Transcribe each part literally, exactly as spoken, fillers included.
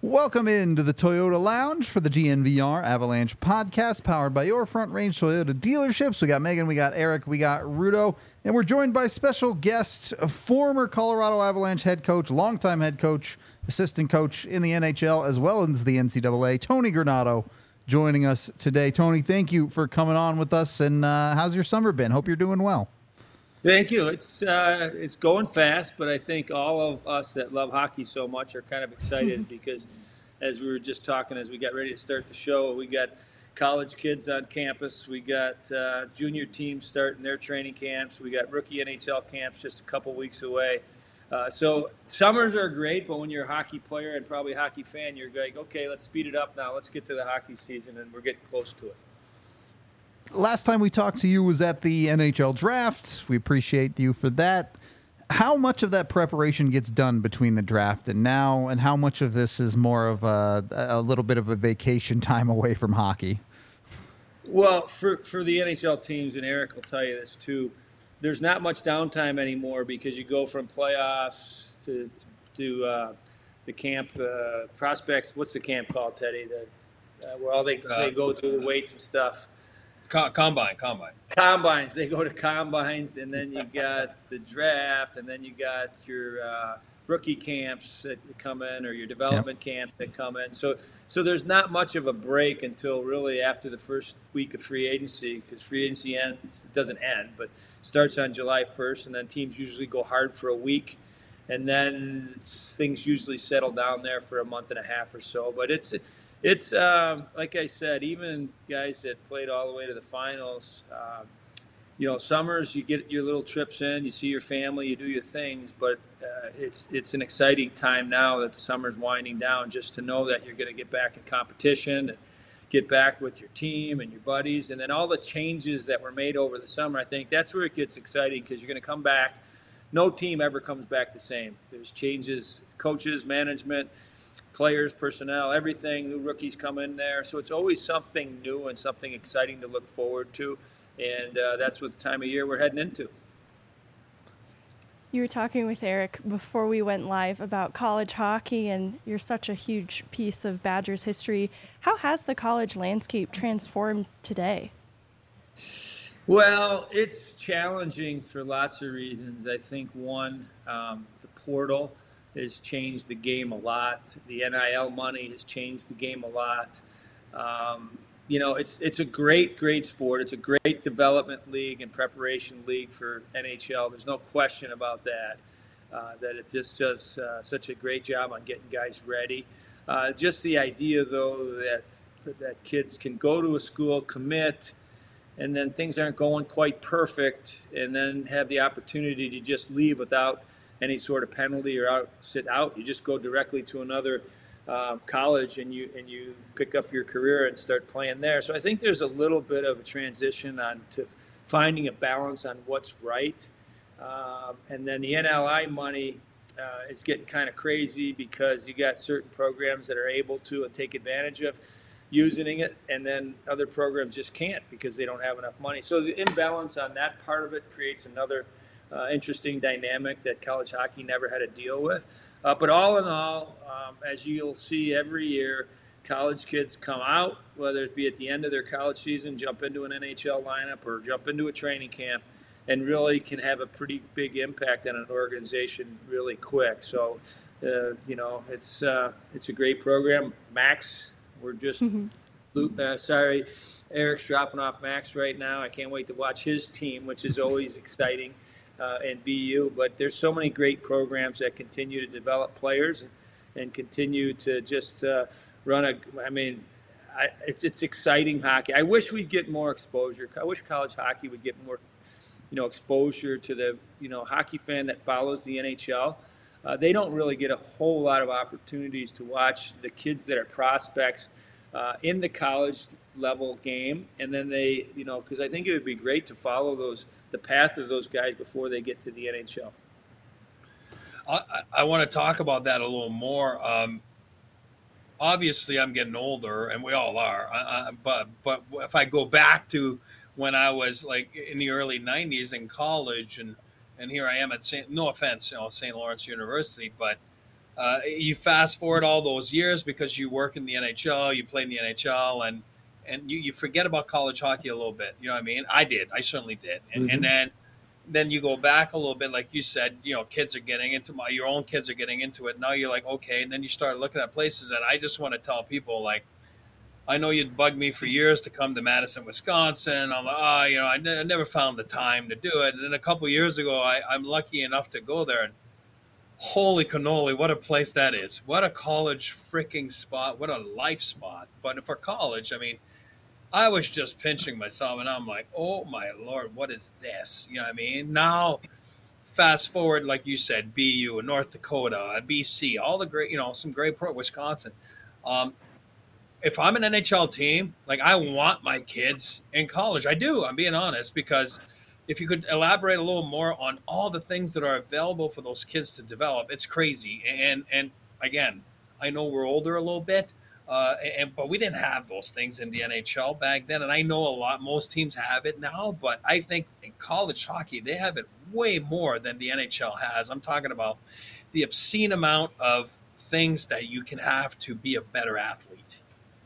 Welcome into the Toyota Lounge for the G N V R Avalanche podcast, powered by your Front Range Toyota dealerships. We got Megan, we got Eric, we got Rudo, and we're joined by special guest, former Colorado Avalanche head coach, longtime head coach, assistant coach in the N H L, as well as the N C double A, Tony Granato, joining us today. Tony, thank you for coming on with us, and uh, how's your summer been? Hope you're doing well. Thank you. It's uh, it's going fast, but I think all of us that love hockey so much are kind of excited because, as we were just talking, as we got ready to start the show, we got college kids on campus. We got uh, junior teams starting their training camps. We got rookie N H L camps just a couple weeks away. Uh, so summers are great, but when you're a hockey player and probably a hockey fan, you're like, okay, let's speed it up now. Let's get to the hockey season, and we're getting close to it. Last time we talked to you was at the N H L draft. We appreciate you for that. How much of that preparation gets done between the draft and now, and how much of this is more of a, a little bit of a vacation time away from hockey? Well, for, for the N H L teams, and Eric will tell you this too, there's not much downtime anymore because you go from playoffs to to uh, the camp uh, prospects. What's the camp called, Teddy? The, uh, where all they, uh, they go through the weights and stuff. Combine, combine. Combines. They go to combines, and then you got the draft, and then you got your uh, rookie camps that come in, or your development yep. camps that come in. So, so there's not much of a break until really after the first week of free agency, because free agency ends. It doesn't end, but starts on July first, and then teams usually go hard for a week, and then things usually settle down there for a month and a half or so. But it's It's um, like I said, even guys that played all the way to the finals, uh, you know, summers you get your little trips in, you see your family, you do your things, but uh, it's it's an exciting time now that the summer's winding down, just to know that you're going to get back in competition and get back with your team and your buddies, and then all the changes that were made over the summer. I think that's where it gets exciting, because you're going to come back. No team ever comes back the same. There's changes, coaches, management, players, personnel, everything, new rookies come in there. So it's always something new and something exciting to look forward to. And uh, that's what the time of year we're heading into. You were talking with Eric before we went live about college hockey, and you're such a huge piece of Badgers history. How has the college landscape transformed today? Well, it's challenging for lots of reasons. I think one, um, the portal has changed the game a lot. The N I L money has changed the game a lot. Um, you know, it's it's a great, great sport. It's a great development league and preparation league for N H L. There's no question about that, uh, that it just does uh, such a great job on getting guys ready. Uh, just the idea, though, that that kids can go to a school, commit, and then things aren't going quite perfect, and then have the opportunity to just leave without any sort of penalty or out sit out. You just go directly to another uh, college and you and you pick up your career and start playing there. So I think there's a little bit of a transition on to finding a balance on what's right. Um, and then the N L I money uh, is getting kind of crazy, because you got certain programs that are able to and take advantage of using it, and then other programs just can't because they don't have enough money. So the imbalance on that part of it creates another Uh, interesting dynamic that college hockey never had to deal with. Uh, but all in all, um, as you'll see every year, college kids come out, whether it be at the end of their college season, jump into an N H L lineup or jump into a training camp, and really can have a pretty big impact on an organization really quick. So, uh, you know, it's uh, it's a great program. Max, we're just mm-hmm. uh, sorry, Eric's dropping off Max right now. I can't wait to watch his team, which is always exciting. Uh, and B U, but there's so many great programs that continue to develop players and, and continue to just uh, run a. I mean, I, it's it's exciting hockey. I wish we'd get more exposure. I wish college hockey would get more, you know, exposure to the you know hockey fan that follows the N H L. Uh, they don't really get a whole lot of opportunities to watch the kids that are prospects uh, in the college level game, and then they, you know, because I think it would be great to follow those the path of those guys before they get to the N H L. I, I want to talk about that a little more. Um, obviously, I'm getting older, and we all are. I, I, but but if I go back to when I was like in the early nineties in college, and and here I am at Saint No offense, you know, Saint Lawrence University, but Uh, you fast forward all those years because you work in the N H L, you play in the N H L, and and you, you forget about college hockey a little bit. You know what I mean? I did. I certainly did. And, Mm-hmm. and then then you go back a little bit, like you said, you know, kids are getting into my, your own kids are getting into it. Now you're like, okay. And then you start looking at places. And I just want to tell people, like, I know you'd bug me for years to come to Madison, Wisconsin. I'm like, ah, oh, you know, I, ne- I never found the time to do it. And then a couple of years ago, I, I'm lucky enough to go there. And holy cannoli, what a place that is. What a college freaking spot. What a life spot. But for college, I mean, I was just pinching myself, and I'm like, oh, my Lord, what is this? You know what I mean? Now, fast forward, like you said, B U, North Dakota, B C, all the great, you know, some great pro, Wisconsin. Um, if I'm an N H L team, like, I want my kids in college. I do, I'm being honest, because if you could elaborate a little more on all the things that are available for those kids to develop, it's crazy. And, and again, I know we're older a little bit, Uh, and, but we didn't have those things in the N H L back then. And I know a lot, most teams have it now, but I think in college hockey, they have it way more than the N H L has. I'm talking about the obscene amount of things that you can have to be a better athlete.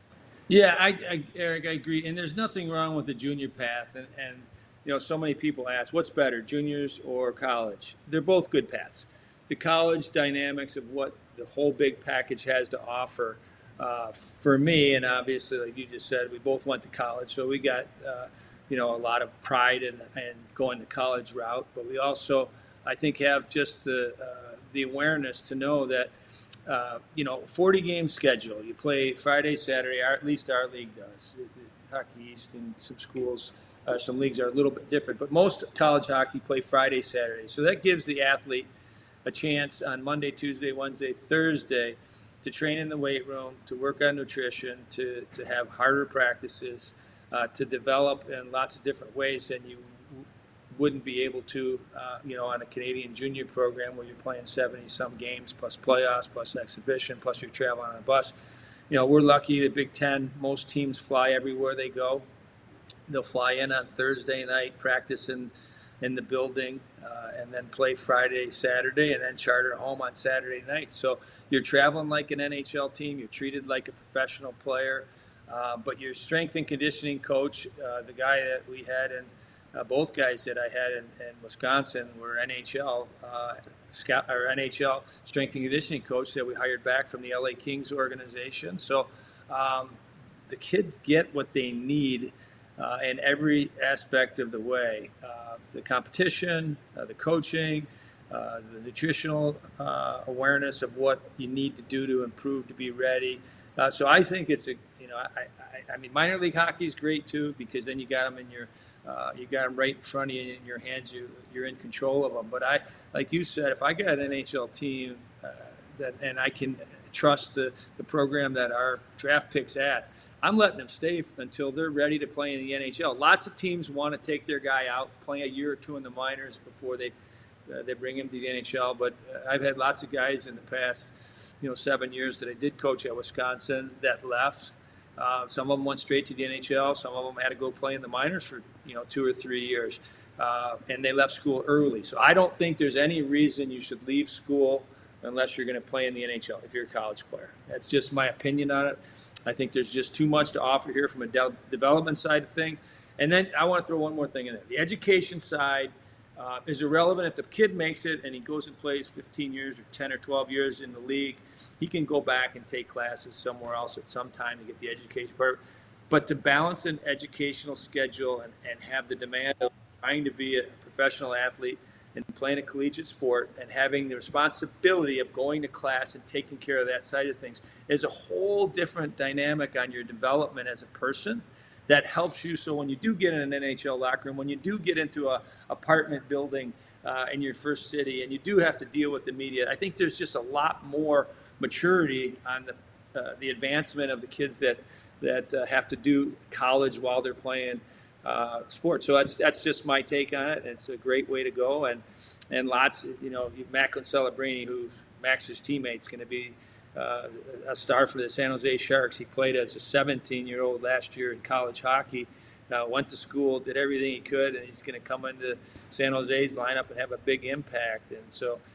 Yeah, I, I, Eric, I agree. And there's nothing wrong with the junior path. And, and, you know, so many people ask, what's better, juniors or college? They're both good paths. The college dynamics of what the whole big package has to offer. Uh, for me, and obviously, like you just said, we both went to college, so we got, uh, you know, a lot of pride in, in going the college route. But we also, I think, have just the uh, the awareness to know that, uh, you know, forty game schedule. You play Friday, Saturday. Our, at least our league does. Hockey East and some schools, uh, some leagues are a little bit different, but most college hockey play Friday, Saturday. So that gives the athlete a chance on Monday, Tuesday, Wednesday, Thursday to train in the weight room, to work on nutrition, to, to have harder practices, uh, to develop in lots of different ways than you w- wouldn't be able to, uh, you know, on a Canadian junior program where you're playing seventy-some games, plus playoffs, plus exhibition, plus you're traveling on a bus. You know, we're lucky, the Big Ten, most teams fly everywhere they go. They'll fly in on Thursday night, practice in, in the building, uh, and then play Friday, Saturday, and then charter home on Saturday night. So you're traveling like an N H L team. You're treated like a professional player. Uh, but your strength and conditioning coach, uh, the guy that we had, and uh, both guys that I had in, in Wisconsin were N H L uh, scout or N H L strength and conditioning coach that we hired back from the L A Kings organization. So um, the kids get what they need Uh, in every aspect of the way, uh, the competition, uh, the coaching, uh, the nutritional uh, awareness of what you need to do to improve to be ready. Uh, so I think it's a, you know, I, I, I mean, minor league hockey is great too, because then you got them in your, uh, you got them right in front of you in your hands. You, you're in control of them. But I, like you said, if I got an N H L team uh, that, and I can trust the, the program that our draft picks at, I'm letting them stay until they're ready to play in the N H L. Lots of teams want to take their guy out, play a year or two in the minors before they uh, they bring him to the N H L. But uh, I've had lots of guys in the past, you know, seven years that I did coach at Wisconsin that left. Uh, some of them went straight to the N H L. Some of them had to go play in the minors for, you know, two or three years. Uh, and they left school early. So I don't think there's any reason you should leave school unless you're going to play in the N H L if you're a college player. That's just my opinion on it. I think there's just too much to offer here from a de- development side of things. And then I want to throw one more thing in there. The education side uh, is irrelevant. If the kid makes it and he goes and plays fifteen years or ten or twelve years in the league, he can go back and take classes somewhere else at some time to get the education part. But to balance an educational schedule and, and have the demand of trying to be a professional athlete and playing a collegiate sport and having the responsibility of going to class and taking care of that side of things is a whole different dynamic on your development as a person that helps you. So when you do get in an N H L locker room, when you do get into a apartment building uh, in your first city and you do have to deal with the media, I think there's just a lot more maturity on the, uh, the advancement of the kids that, that uh, have to do college while they're playing Uh, sport. So that's that's just my take on it. It's a great way to go, and and lots, you know, Macklin Celebrini, who's Max's teammate, is going to be uh, a star for the San Jose Sharks. He played as a seventeen-year-old last year in college hockey, uh, went to school, did everything he could, and he's going to come into San Jose's lineup and have a big impact. And so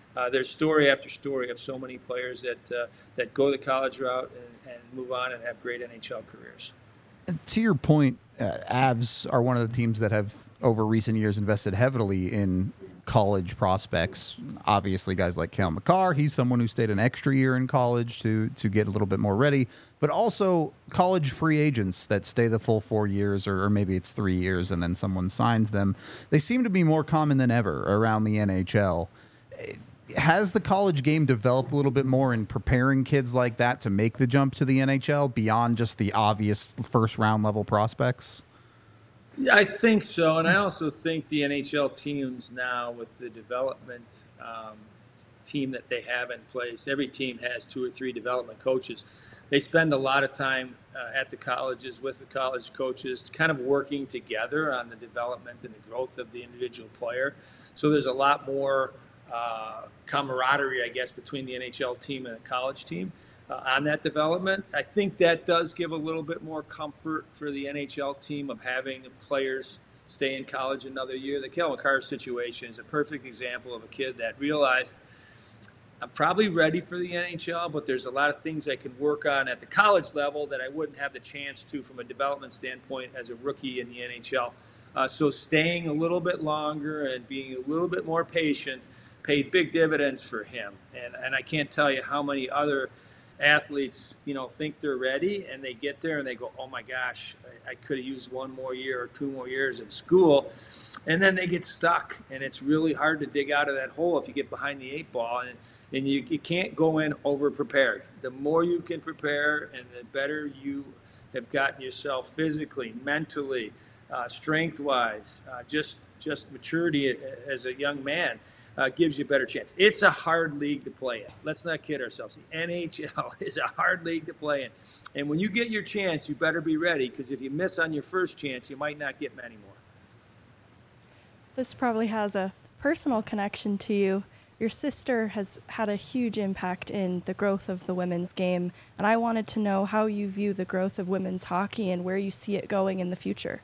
uh, there's story after story of so many players that uh, that go the college route and, and move on and have great N H L careers. To your point, uh, Avs are one of the teams that have over recent years invested heavily in college prospects. Obviously, guys like Cale Makar, he's someone who stayed an extra year in college to to get a little bit more ready, but also college free agents that stay the full four years, or, or maybe it's three years and then someone signs them. They seem to be more common than ever around the N H L. Has the college game developed a little bit more in preparing kids like that to make the jump to the N H L beyond just the obvious first round level prospects? I think so, and I also think the N H L teams now, with the development um, team that they have in place, every team has two or three development coaches. They spend a lot of time uh, at the colleges with the college coaches, kind of working together on the development and the growth of the individual player. So there's a lot more uh, camaraderie, I guess, between the N H L team and the college team. Uh, on that development. I think that does give a little bit more comfort for the N H L team of having players stay in college another year. The Cale Makar situation is a perfect example of a kid that realized, I'm probably ready for the N H L, but there's a lot of things I can work on at the college level that I wouldn't have the chance to from a development standpoint as a rookie in the N H L. Uh, so staying a little bit longer and being a little bit more patient paid big dividends for him. And, and I can't tell you how many other athletes, you know, think they're ready and they get there and they go, oh my gosh, I, I could have used one more year or two more years in school. And then they get stuck, and it's really hard to dig out of that hole if you get behind the eight ball, and, and you, you can't go in over prepared. The more you can prepare and the better you have gotten yourself physically, mentally, uh, strength wise, uh, just, just maturity as a young man. Uh, gives you a better chance. It's a hard league to play in. Let's not kid ourselves. The N H L is a hard league to play in. And when you get your chance, you better be ready, because if you miss on your first chance, you might not get many more. This probably has a personal connection to you. Your sister has had a huge impact in the growth of the women's game, and I wanted to know how you view the growth of women's hockey and where you see it going in the future.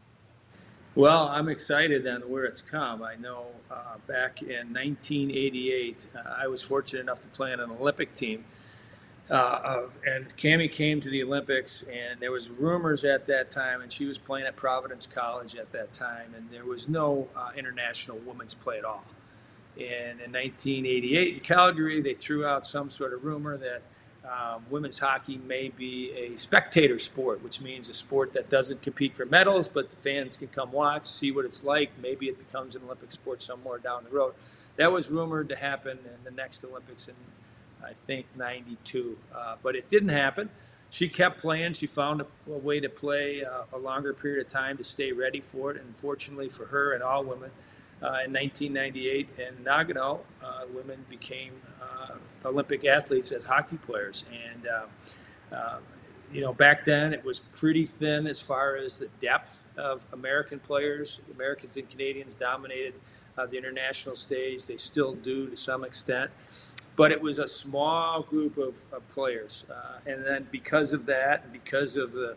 Well, I'm excited on where it's come. I know uh, back in nineteen eighty-eight, uh, I was fortunate enough to play on an Olympic team. Uh, uh, and Cammie came to the Olympics, and there was rumors at that time, and she was playing at Providence College at that time, and there was no uh, international women's play at all. And in nineteen eighty-eight in Calgary, they threw out some sort of rumor that Um, women's hockey may be a spectator sport, which means a sport that doesn't compete for medals, but the fans can come watch, see what it's like. Maybe it becomes an Olympic sport somewhere down the road. That was rumored to happen in the next Olympics in, I think, ninety-two, uh, but it didn't happen. She kept playing. She found a, a way to play uh, a longer period of time to stay ready for it, and fortunately for her and all women, Uh, in nineteen ninety-eight in Nagano, uh, women became uh, Olympic athletes as hockey players. And, uh, uh, you know, back then it was pretty thin as far as the depth of American players. Americans and Canadians dominated uh, the international stage. They still do to some extent. But it was a small group of, of players. Uh, and then because of that, and because of the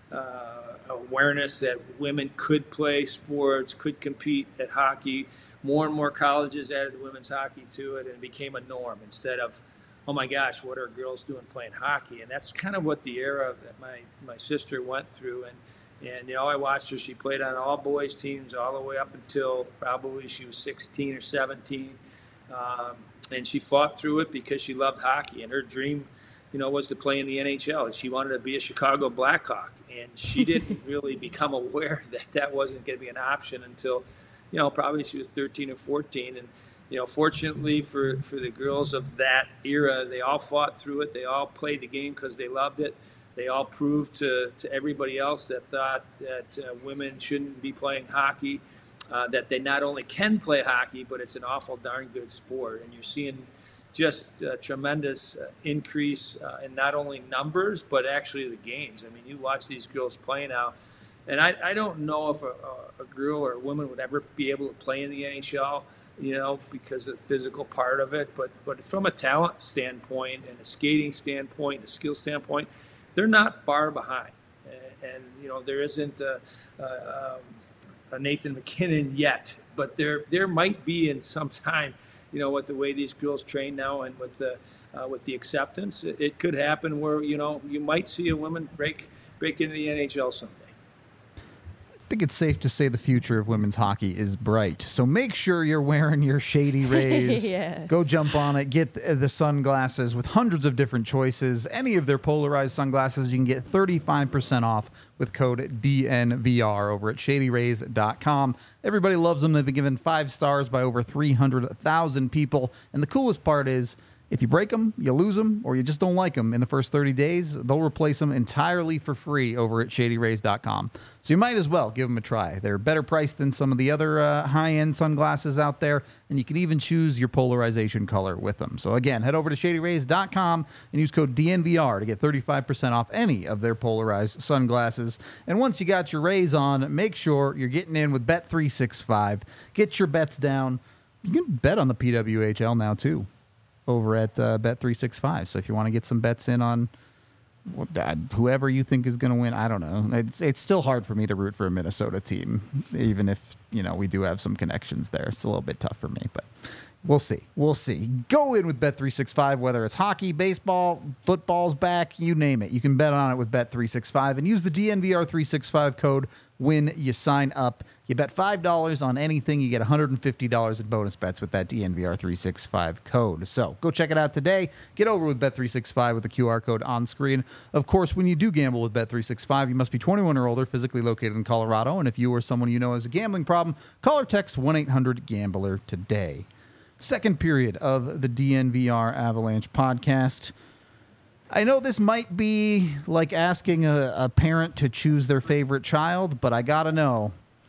Uh, awareness that women could play sports, could compete at hockey, more and more colleges added women's hockey to it, and it became a norm instead of, oh my gosh, what are girls doing playing hockey? And that's kind of what the era that my, my sister went through. And, and, you know, I watched her. She played on all boys teams all the way up until probably she was sixteen or seventeen. Um, and she fought through it because she loved hockey, and her dream, you know, was to play in the N H L. And she wanted to be a Chicago Blackhawk. And she didn't really become aware that that wasn't going to be an option until, you know, probably she was thirteen or fourteen. And, you know, fortunately for, for the girls of that era, they all fought through it. They all played the game because they loved it. They all proved to, to everybody else that thought that uh, women shouldn't be playing hockey, uh, that they not only can play hockey, but it's an awful darn good sport. And you're seeing just a tremendous uh, increase uh, in not only numbers, but actually the games. I mean, you watch these girls play now, and I, I don't know if a, a girl or a woman would ever be able to play in the N H L, you know, because of the physical part of it. But, but from a talent standpoint and a skating standpoint, and a skill standpoint, they're not far behind. And, and you know, there isn't a, a, um, a Nathan MacKinnon yet, but there there might be in some time. you know, with the way these girls train now and with the uh, with the acceptance, it, it could happen where, you know, you might see a woman break break into the N H L someday. I think it's safe to say the future of women's hockey is bright. So make sure you're wearing your Shady Rays. Yes. Go jump on it. Get the sunglasses with hundreds of different choices. Any of their polarized sunglasses, you can get thirty-five percent off with code D N V R over at shady rays dot com. Everybody loves them. They've been given five stars by over three hundred thousand people. And the coolest part is, if you break them, you lose them, or you just don't like them in the first thirty days, they'll replace them entirely for free over at shady rays dot com. So you might as well give them a try. They're better priced than some of the other uh, high-end sunglasses out there, and you can even choose your polarization color with them. So again, head over to shady rays dot com and use code D N V R to get thirty-five percent off any of their polarized sunglasses. And once you got your Rays on, make sure you're getting in with Bet three sixty-five. Get your bets down. You can bet on the P W H L now, too, over at uh, Bet three sixty-five. So if you want to get some bets in on uh, whoever you think is going to win, I don't know. It's it's still hard for me to root for a Minnesota team, even if, you know, we do have some connections there. It's a little bit tough for me, but we'll see. We'll see. Go in with Bet three sixty-five, whether it's hockey, baseball, football's back, you name it. You can bet on it with Bet three sixty-five and use the D N V R three sixty-five code when you sign up. You bet five dollars on anything, you get one hundred fifty dollars in bonus bets with that D N V R three sixty-five code. So go check it out today. Get over with Bet three sixty-five with the Q R code on screen. Of course, when you do gamble with Bet three sixty-five, you must be twenty-one or older, physically located in Colorado. And if you or someone you know has a gambling problem, call or text one eight hundred gambler today. Second period of the D N V R Avalanche podcast. I know this might be like asking a, a parent to choose their favorite child, but I gotta know.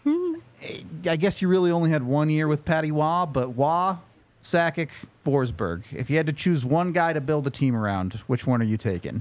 I guess you really only had one year with Patty Waugh, but Waugh, Sakic, Forsberg. If you had to choose one guy to build a team around, which one are you taking?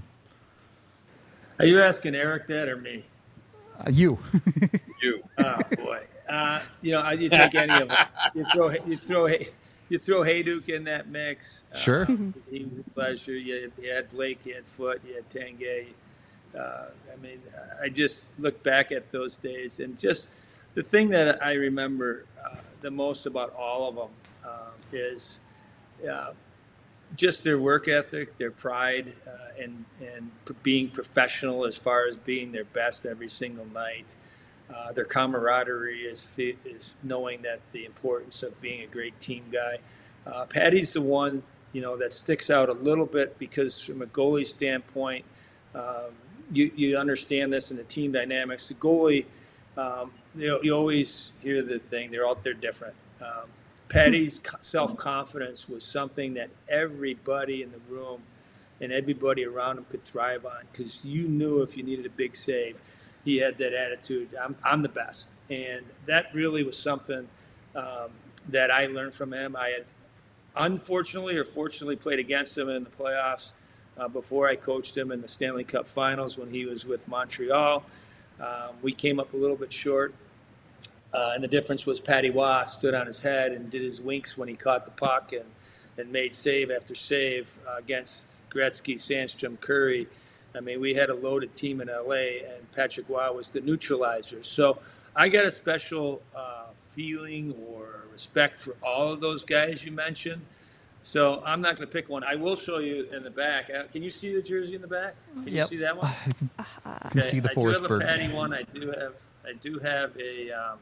Are you asking Eric that or me? Uh, you. You. Oh boy. Uh, you know, you take any of them. You throw, you throw, you throw Hayduk in that mix. Sure. Uh, he was a pleasure. You, you had Blake, you had Foote, you had Tanguay. Uh, I mean, I just look back at those days, and just the thing that I remember uh, the most about all of them uh, is uh, just their work ethic, their pride, uh, and and being professional as far as being their best every single night. Uh, their camaraderie is is knowing that the importance of being a great team guy. Uh, Patty's the one, you know, that sticks out a little bit because from a goalie standpoint, um, you you understand this in the team dynamics. The goalie, um, you know, you always hear the thing, they're out there different. Um, Patty's self-confidence was something that everybody in the room and everybody around him could thrive on, because you knew if you needed a big save, he had that attitude, I'm, I'm the best. And that really was something um, that I learned from him. I had unfortunately or fortunately played against him in the playoffs uh, before I coached him in the Stanley Cup Finals when he was with Montreal. Um, we came up a little bit short. Uh, and the difference was Patty Waugh stood on his head and did his winks when he caught the puck and, and made save after save uh, against Gretzky, Sandstrom, Curry. I mean, we had a loaded team in L A, and Patrick Waugh was the neutralizer. So I got a special uh, feeling or respect for all of those guys you mentioned. So I'm not going to pick one. I will show you in the back. Uh, can you see the jersey in the back? Can Yep. you see that one? I can see the I do have a Forsberg. Patty one. I do have. I do have a um,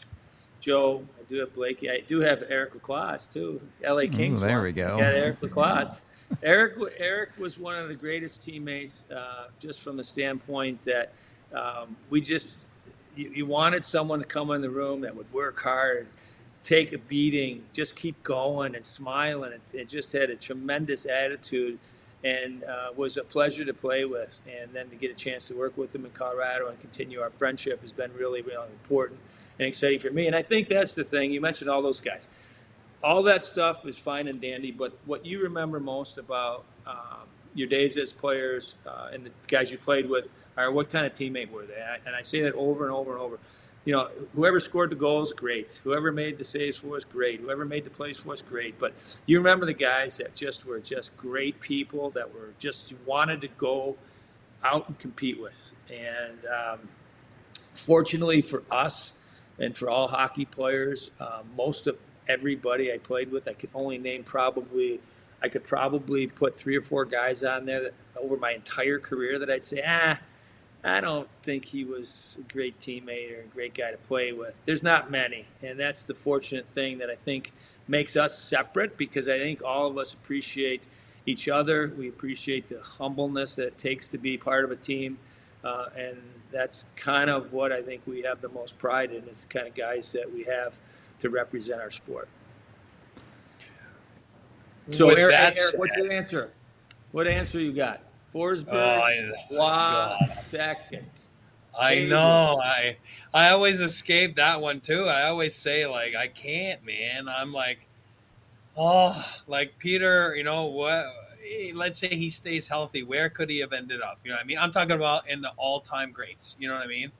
Joe. I do have Blakey. I do have Eric Lacroix too. L A Kings. Ooh, there one. we go. I got Eric Lacroix. Eric. Eric was one of the greatest teammates, uh, just from the standpoint that um, we just you, you wanted someone to come in the room that would work hard, take a beating, just keep going and smiling. It, it just had a tremendous attitude, and uh, was a pleasure to play with. And then to get a chance to work with him in Colorado and continue our friendship has been really, really important and exciting for me. And I think that's the thing. You mentioned all those guys. All that stuff is fine and dandy, but what you remember most about um, your days as players uh, and the guys you played with are what kind of teammate were they? And I, and I say that over and over and over. You know, whoever scored the goals, great. Whoever made the saves for us, great. Whoever made the plays for us, great. But you remember the guys that just were just great people, that were just, you wanted to go out and compete with. And um, fortunately for us and for all hockey players, uh, most of everybody I played with. I could only name probably, I could probably put three or four guys on there that, over my entire career that I'd say, ah, I don't think he was a great teammate or a great guy to play with. There's not many, and that's the fortunate thing that I think makes us separate, because I think all of us appreciate each other. We appreciate the humbleness that it takes to be part of a team, uh, and that's kind of what I think we have the most pride in, is the kind of guys that we have to represent our sport. So, With Eric, that Eric said- what's your answer? What answer you got? Forsberg, Oh, I- Waugh, God. Sakic. I Hey, know. I I always escape that one too. I always say, like, I can't, man. I'm like, oh, like Peter, you know what? Let's say he stays healthy. Where could he have ended up? You know what I mean? I'm talking about in the all-time greats. You know what I mean?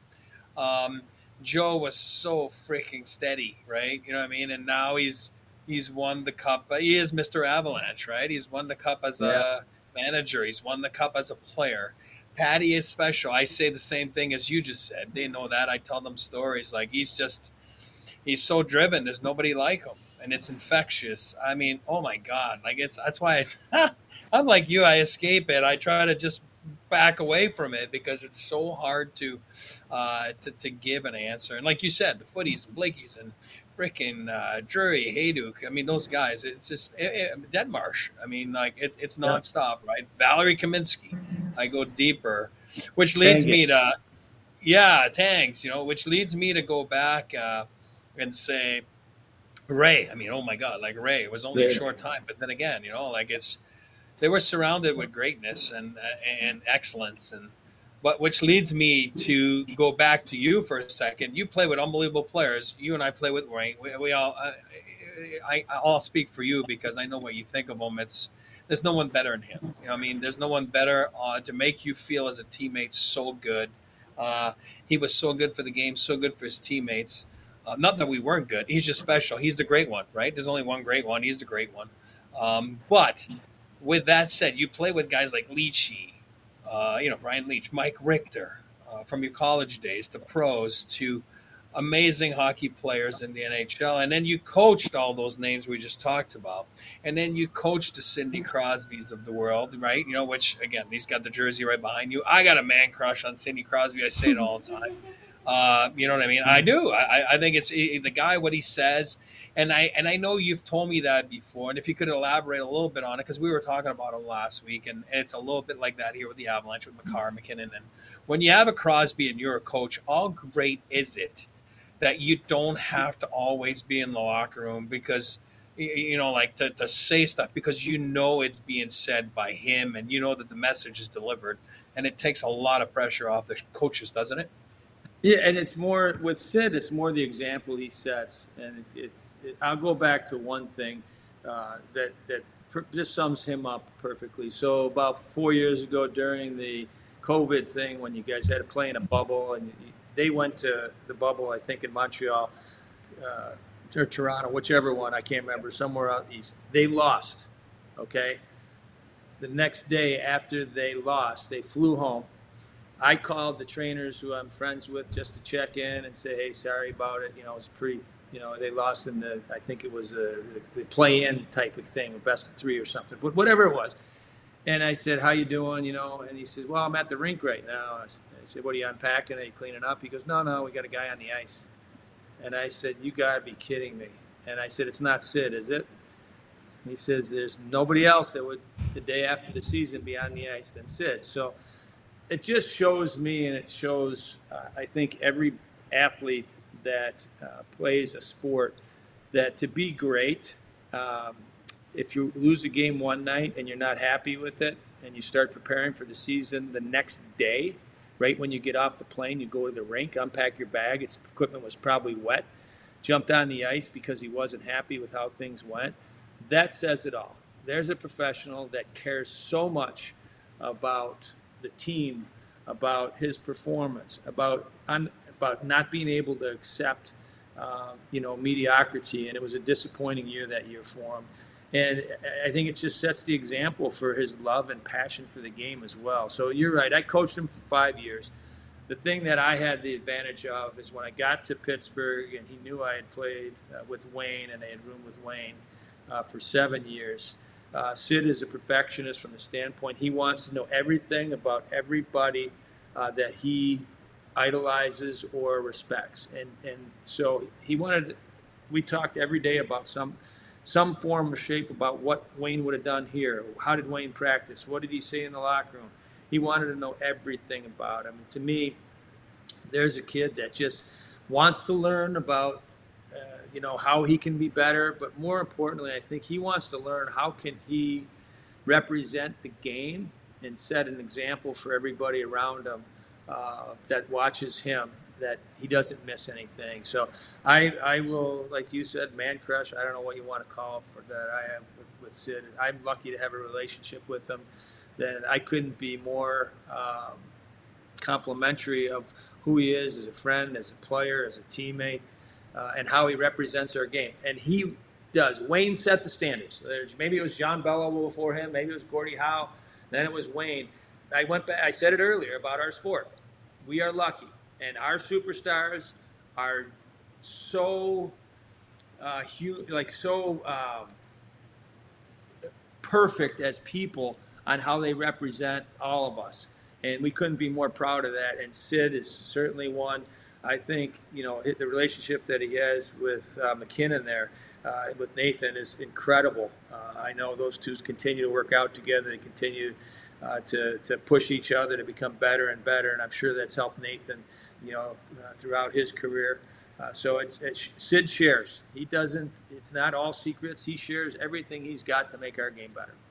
Um, Joe was so freaking steady, right? You know what I mean? And now he's he's won the cup. He is Mister Avalanche, right? He's won the cup as Yeah. a manager. He's won the cup as a player. Patty is special. I say the same thing as you just said. They know that. I tell them stories. Like, he's just, he's so driven. There's nobody like him, and it's infectious. I mean, oh my God. Like, it's, that's why I, I'm like you. I escape it. I try to just back away from it because it's so hard to, uh, to, to give an answer. And like you said, the Footies and Blakeys and freaking uh, Drury, Hayduk. I mean, those guys. It's just it, it, Deadmarsh. I mean, like it's it's nonstop, right? Valerie Kaminsky. I go deeper, which leads Tang me it. to, yeah, tanks. You know, which leads me to go back uh, and say, Ray. I mean, oh my God, like Ray. It was only a Yeah. short time, but then again, you know, like it's they were surrounded with greatness and uh, and excellence and. But which leads me to go back to you for a second. You play with unbelievable players. You and I play with Ray. We, we all, I, I, I'll speak for you because I know what you think of him. It's there's no one better than him. You know, what I mean, there's no one better uh, to make you feel as a teammate so good. Uh, he was so good for the game, so good for his teammates. Uh, not that we weren't good. He's just special. He's the great one, right? There's only one great one. He's the great one. Um, but with that said, you play with guys like Leachy. Uh, you know, Brian Leach, Mike Richter, uh, from your college days to pros to amazing hockey players in the N H L. And then you coached all those names we just talked about. And then you coached the Sidney Crosbys of the world, right? You know, which, again, he's got the jersey right behind you. I got a man crush on Sidney Crosby. I say it all the time. Uh, you know what I mean? I do. I, I think it's the guy, what he says. And I and I know you've told me that before. And if you could elaborate a little bit on it, because we were talking about him last week, and, and it's a little bit like that here with the Avalanche with Makar, McKinnon. And when you have a Crosby and you're a coach, how great is it that you don't have to always be in the locker room because, you know, like to, to say stuff because you know it's being said by him and you know that the message is delivered. And it takes a lot of pressure off the coaches, doesn't it? Yeah, and it's more with Sid. It's more the example he sets, and it, it's. It, I'll go back to one thing uh, that that per, just sums him up perfectly. So about four years ago, during the COVID thing, when you guys had to play in a bubble, and they went to the bubble, I think in Montreal uh, or Toronto, whichever one, I can't remember, somewhere out east. They lost. Okay. The next day after they lost, they flew home. I called the trainers who I'm friends with just to check in and say, hey, sorry about it. You know, it was pretty, you know, they lost in the, I think it was a, the play-in type of thing, a best of three or something, but whatever it was. And I said, how you doing, you know? And he says, well, I'm at the rink right now. I said, what are you unpacking? Are you cleaning up? He goes, no, no, we got a guy on the ice. And I said, you got to be kidding me. And I said, it's not Sid, is it? And he says, there's nobody else that would, the day after the season, be on the ice than Sid. So it just shows me, and it shows, uh, I think, every athlete that uh, plays a sport, that to be great, um, if you lose a game one night and you're not happy with it, and you start preparing for the season the next day, right when you get off the plane, you go to the rink, unpack your bag, its equipment was probably wet, jumped on the ice because he wasn't happy with how things went. That says it all. There's a professional that cares so much about the team, about his performance, about un, about not being able to accept, uh, you know, mediocrity. And it was a disappointing year that year for him. And I think it just sets the example for his love and passion for the game as well. So you're right. I coached him for five years. the thing that I had the advantage of is when I got to Pittsburgh and he knew I had played uh, with Wayne and I had roomed with Wayne uh, for seven years. Uh, Sid is a perfectionist from the standpoint he wants to know everything about everybody uh, that he idolizes or respects. And, and so he wanted, we talked every day about some some form or shape about what Wayne would have done here. How did Wayne practice? What did he say in the locker room? He wanted to know everything about him. And to me, there's a kid that just wants to learn about, uh, you know, how he can be better. But more importantly, I think he wants to learn how can he represent the game and set an example for everybody around him uh, that watches him, that he doesn't miss anything. So I, I will, like you said, man crush. I don't know what you want to call for that I have with, with Sid. I'm lucky to have a relationship with him. Then I couldn't be more um, complimentary of who he is as a friend, as a player, as a teammate, uh, and how he represents our game. And he does. Wayne set the standards. There's, maybe it was John Bello before him. Maybe it was Gordie Howe. Then it was Wayne. I went back. I said it earlier about our sport. We are lucky, and our superstars are so uh, hu- like so um, perfect as people on how they represent all of us. And we couldn't be more proud of that. And Sid is certainly one. I think, you know, the relationship that he has with uh, McKinnon there, uh, with Nathan, is incredible. Uh, I know those two continue to work out together. They continue uh, to, to push each other to become better and better. And I'm sure that's helped Nathan, you know, uh, throughout his career. Uh, so it's, it's Sid shares. He doesn't, it's not all secrets. He shares everything he's got to make our game better.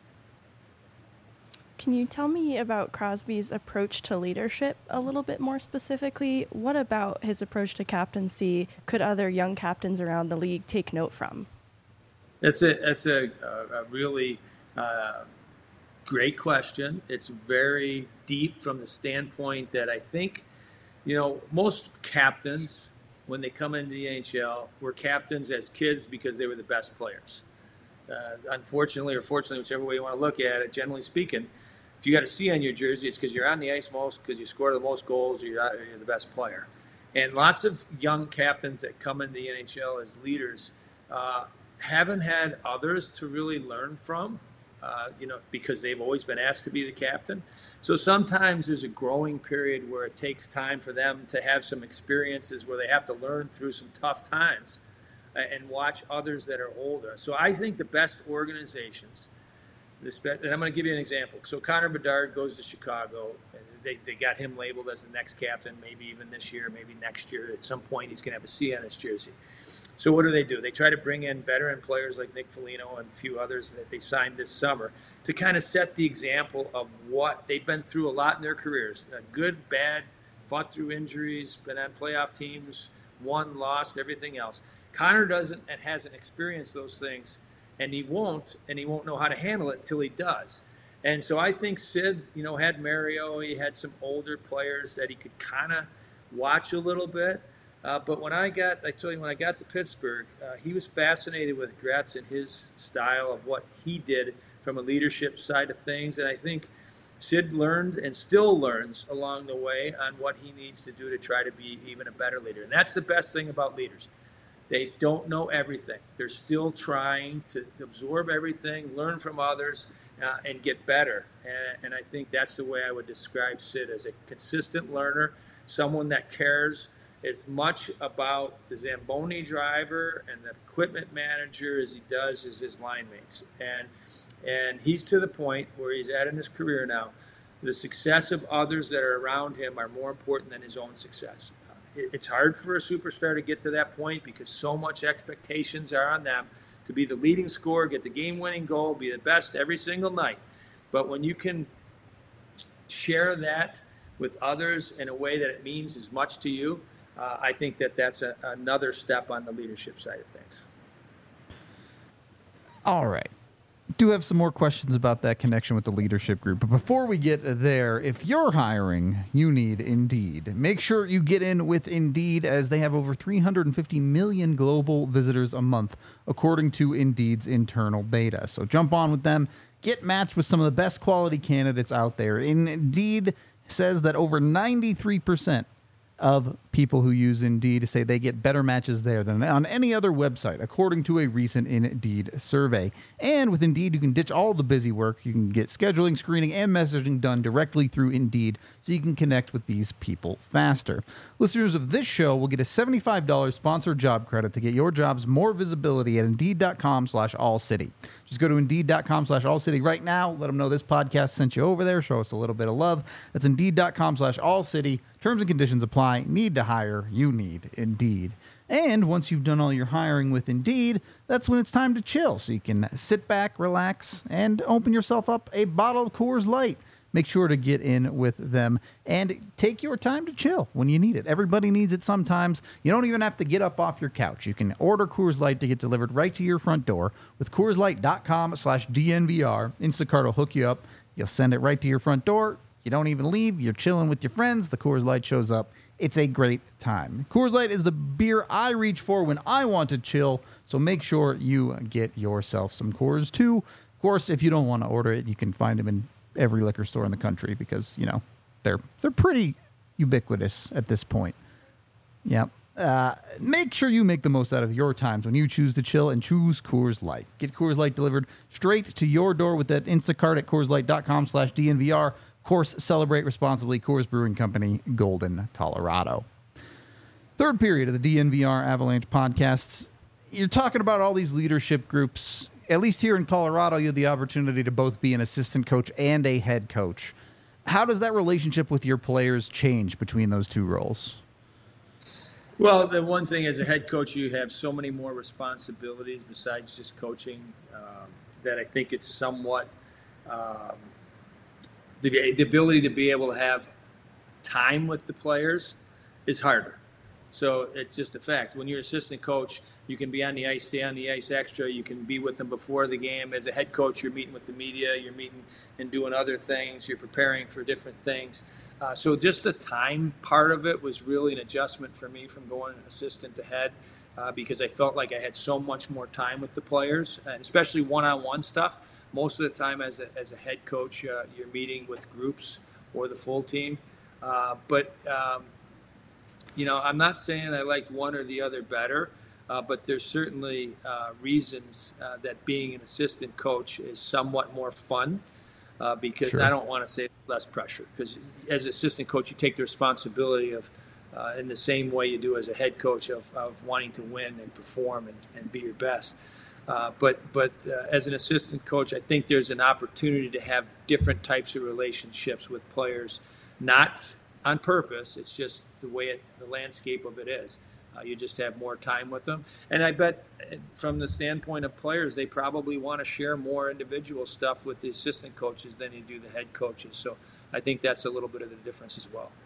Can you tell me about Crosby's approach to leadership a little bit more specifically? What about his approach to captaincy could other young captains around the league take note from? That's a that's a, a really uh, great question. It's very deep from the standpoint that I think, you know, most captains, when they come into the N H L, were captains as kids because they were the best players. Uh, unfortunately or fortunately, whichever way you want to look at it, generally speaking, if you got a C on your jersey, it's because you're on the ice most, because you score the most goals, or you're, you're the best player. And lots of young captains that come into the N H L as leaders uh, haven't had others to really learn from, uh, you know, because they've always been asked to be the captain. So sometimes there's a growing period where it takes time for them to have some experiences where they have to learn through some tough times and watch others that are older. So I think the best organizations, this, and I'm going to give you an example. So Connor Bedard goes to Chicago. And they, they got him labeled as the next captain, maybe even this year, maybe next year. At some point, he's going to have a C on his jersey. So what do they do? They try to bring in veteran players like Nick Foligno and a few others that they signed this summer to kind of set the example of what they've been through a lot in their careers. Good, bad, fought through injuries, been on playoff teams, won, lost, everything else. Connor doesn't and hasn't experienced those things, and he won't, and he won't know how to handle it until he does. And so I think Sid, you know, had Mario, he had some older players that he could kind of watch a little bit. Uh, but when I got, I told you, when I got to Pittsburgh, uh, he was fascinated with Gretz and his style of what he did from a leadership side of things. And I think Sid learned and still learns along the way on what he needs to do to try to be even a better leader. And that's the best thing about leaders. They don't know everything. They're still trying to absorb everything, learn from others, uh, and get better. And, and I think that's the way I would describe Sid, as a consistent learner, someone that cares as much about the Zamboni driver and the equipment manager as he does as his line mates. And, and he's to the point where he's at in his career now. The success of others that are around him are more important than his own success. It's hard for a superstar to get to that point because so much expectations are on them to be the leading scorer, get the game-winning goal, be the best every single night. But when you can share that with others in a way that it means as much to you, uh, I think that that's a, another step on the leadership side of things. All right. Do have some more questions about that connection with the leadership group. But before we get there, if you're hiring, you need Indeed. Make sure you get in with Indeed, as they have over three hundred fifty million global visitors a month, according to Indeed's internal data. So jump on with them. Get matched with some of the best quality candidates out there. Indeed says that over ninety-three percent of people who use Indeed say they get better matches there than on any other website, according to a recent Indeed survey. And with Indeed, you can ditch all the busy work. You can get scheduling, screening, and messaging done directly through Indeed, so you can connect with these people faster. Listeners of this show will get a seventy-five dollars sponsored job credit to get your jobs more visibility at Indeed.com slash AllCity. Just go to Indeed.com slash AllCity right now. Let them know this podcast sent you over there. Show us a little bit of love. That's Indeed.com slash AllCity. Terms and conditions apply. Need to hire. You need Indeed. And once you've done all your hiring with Indeed, that's when it's time to chill. So you can sit back, relax, and open yourself up a bottle of Coors Light. Make sure to get in with them and take your time to chill when you need it. Everybody needs it sometimes. You don't even have to get up off your couch. You can order Coors Light to get delivered right to your front door with Coors Light.com slash DNVR. Instacart will hook you up. You'll send it right to your front door. You don't even leave. You're chilling with your friends. The Coors Light shows up. It's a great time. Coors Light is the beer I reach for when I want to chill, so make sure you get yourself some Coors too. Of course, if you don't want to order it, you can find them in every liquor store in the country because, you know, they're they're pretty ubiquitous at this point. Yeah. Uh, make sure you make the most out of your times when you choose to chill and choose Coors Light. Get Coors Light delivered straight to your door with that Instacart at CoorsLight.com slash DNVR. Of course, celebrate responsibly. Coors Brewing Company, Golden, Colorado. Third period of the D N V R Avalanche podcasts. You're talking about all these leadership groups. At least here in Colorado, you had the opportunity to both be an assistant coach and a head coach. How does that relationship with your players change between those two roles? Well, the one thing as a head coach, you have so many more responsibilities besides just coaching um, that I think it's somewhat um, the, the ability to be able to have time with the players is harder. So it's just a fact. When you're assistant coach, you can be on the ice, stay on the ice extra. You can be with them before the game. As a head coach, you're meeting with the media. You're meeting and doing other things. You're preparing for different things. Uh, so just the time part of it was really an adjustment for me from going assistant to head uh, because I felt like I had so much more time with the players, and especially one-on-one stuff. Most of the time as a, as a head coach, uh, you're meeting with groups or the full team. Uh, but, um, you know, I'm not saying I liked one or the other better, uh, but there's certainly uh, reasons uh, that being an assistant coach is somewhat more fun uh, because sure. I don't want to say less pressure, because as assistant coach, you take the responsibility of uh, in the same way you do as a head coach of, of wanting to win and perform and, and be your best. Uh, but but uh, as an assistant coach, I think there's an opportunity to have different types of relationships with players, not on purpose. It's just the way it, the landscape of it is. Uh, you just have more time with them. And I bet from the standpoint of players, they probably want to share more individual stuff with the assistant coaches than they do the head coaches. So I think that's a little bit of the difference as well.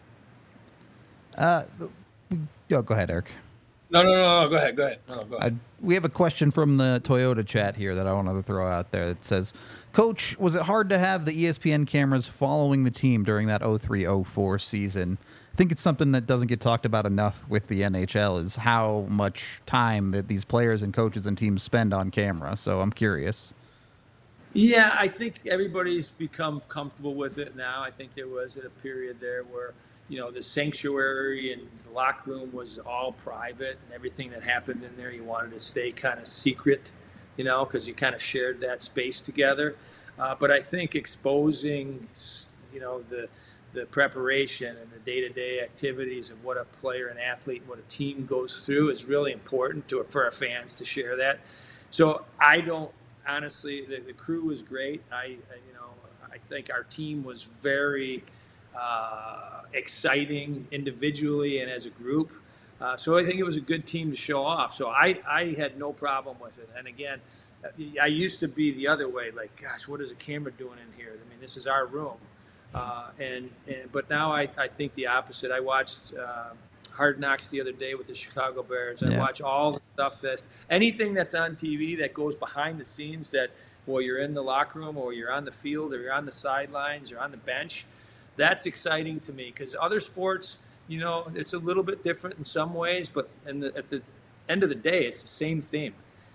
Uh, oh, go ahead, Eric. No, no, no, no. Go ahead. Go ahead. No, go ahead. Uh, we have a question from the Toyota chat here that I wanted to throw out there that says, Coach, was it hard to have the E S P N cameras following the team during that oh three oh four season? I think it's something that doesn't get talked about enough with the N H L is how much time that these players and coaches and teams spend on camera. So I'm curious. Yeah, I think everybody's become comfortable with it now. I think there was a period there where, you know, the sanctuary and the locker room was all private, and everything that happened in there, you wanted to stay kind of secret, you know, because you kind of shared that space together. Uh, but I think exposing, you know, the the preparation and the day-to-day activities of what a player, an athlete, what a team goes through is really important to for our fans to share that. So I don't, honestly, the, the crew was great. I, I, you know, I think our team was very uh, exciting individually and as a group. Uh, so I think it was a good team to show off. So I, I had no problem with it. And again, I used to be the other way, like, gosh, what is a camera doing in here? I mean, this is our room. Uh, and, and but now I, I think the opposite. I watched uh, Hard Knocks the other day with the Chicago Bears. I yeah. watch all the stuff that anything that's on T V that goes behind the scenes, that well, you're in the locker room or you're on the field or you're on the sidelines or on the bench. That's exciting to me because other sports, you know, it's a little bit different in some ways, but in the, at the end of the day, it's the same theme.